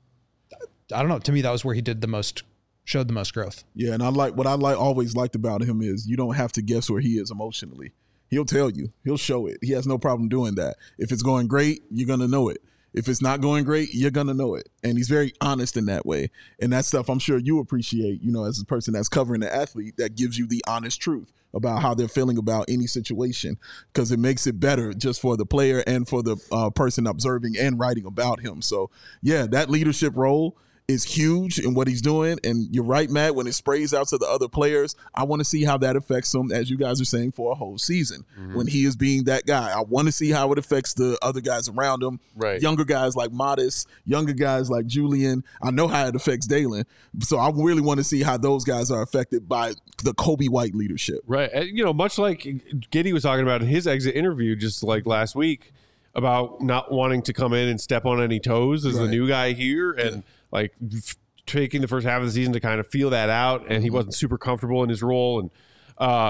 I don't know. To me, that was where he did the most. Showed the most growth. Yeah, and I like what I like always liked about him is you don't have to guess where he is emotionally. He'll tell you. He'll show it. He has no problem doing that. If it's going great, you're going to know it. If it's not going great, you're going to know it. And he's very honest in that way. And that stuff I'm sure you appreciate, you know, as a person that's covering the athlete, that gives you the honest truth about how they're feeling about any situation because it makes it better just for the player and for the uh, person observing and writing about him. So, yeah, that leadership role is huge in what he's doing. And you're right, Matt, when it sprays out to the other players, I want to see how that affects him, as you guys are saying, for a whole season. Mm-hmm. When he is being that guy, I want to see how it affects the other guys around him. Right. Younger guys like Modest, younger guys like Julian. I know how it affects Dalen. So I really want to see how those guys are affected by the Kobe White leadership. Right. And, you know, much like Giddey was talking about in his exit interview just like last week about not wanting to come in and step on any toes as right. the new guy here. And, yeah. like taking the first half of the season to kind of feel that out, and he wasn't super comfortable in his role. And uh,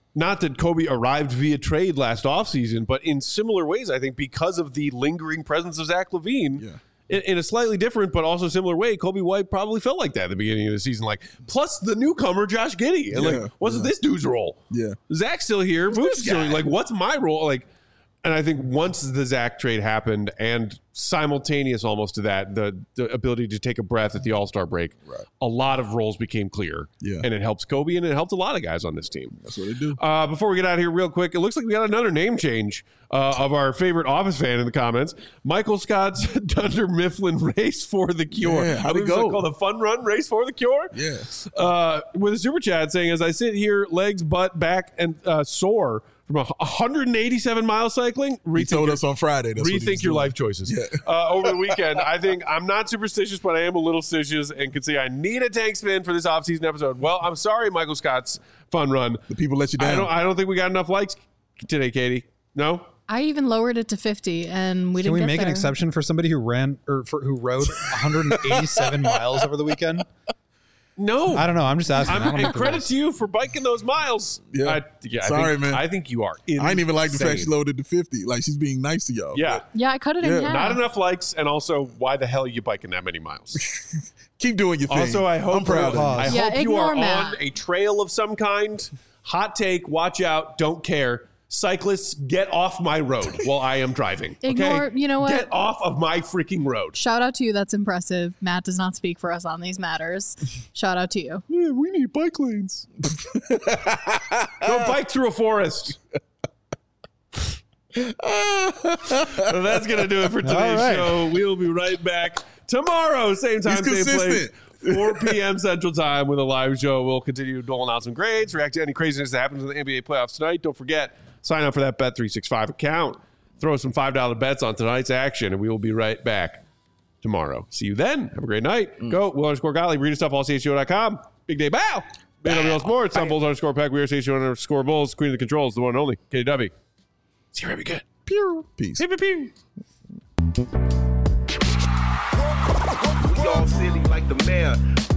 not that Kobe arrived via trade last offseason, but in similar ways, I think because of the lingering presence of Zach LaVine. Yeah. In, in a slightly different but also similar way, Kobe White probably felt like that at the beginning of the season. Like, plus the newcomer Josh Giddey, and Yeah, like, what's yeah. this dude's role? Yeah. Zach's still here. Vooch is still here. Like, what's my role? Like, and I think once the Zach trade happened, and simultaneous almost to that, the, the ability to take a breath at the All-Star break, Right. a lot of roles became clear. Yeah. And it helps Kobe, and it helped a lot of guys on this team. That's what they do. Uh, before we get out of here real quick, it looks like we got another name change uh, of our favorite Office fan in the comments. Michael Scott's Dunder Mifflin Race for the Cure. Yeah, how'd I it believe it's go? called the Fun Run Race for the Cure? Yeah. Uh, with a super chat saying, as I sit here, legs, butt, back, and uh, sore from a one hundred eighty-seven mile cycling, He rethink told your, us on Friday. That's what he was rethink your doing. life choices. Yeah. Uh, over the weekend, I think I'm not superstitious, but I am a little stitious and can say I need a tank spin for this offseason episode. Well, I'm sorry, Michael Scott's Fun Run. The people let you I down. don't. I don't think we got enough likes today, Katie. No. I even lowered it to fifty, and we Can didn't we get make an there. exception for somebody who ran or for, who rode one hundred eighty-seven miles over the weekend? No. I don't know. I'm just asking. I I'm, don't know and if it credit was. to you for biking those miles. Yeah. I, yeah I Sorry, think, man. I think you are. Insane. I didn't even like the fact she loaded to fifty. Like, she's being nice to y'all. Yeah. Yeah, I cut it Yeah. in half. Not enough likes, and also, why the hell are you biking that many miles? Keep doing your thing. Also, I hope I'm proud of I you. Yeah, hope you ignore are Matt. on a trail of some kind. Hot take. Watch out. Don't care. Cyclists, get off my road while I am driving. Okay? Ignore- you know what? Get off of my freaking road. Shout out to you. That's impressive. Matt does not speak for us on these matters. Shout out to you. Yeah, we need bike lanes. Go bike through a forest. Well, that's going to do it for today's All right. show. We'll be right back tomorrow, same time, He's same place. consistent. four p.m. Central Time with a live show. We'll continue doling out some grades, react to any craziness that happens in the N B A playoffs tonight. Don't forget, sign up for that Bet three sixty-five account. Throw some five dollar bets on tonight's action, and we will be right back tomorrow. See you then. Have a great night. Go, Will underscore Gottlieb, read stuff, all C H G O dot com. Big day, bow. Big W L Sports, on Bulls underscore Peck. We are C H G O underscore Bulls. Queen of the controls, the one and only, K W. See you very good. Pew. Peace. Pew, pew, pew. We all silly like the mayor.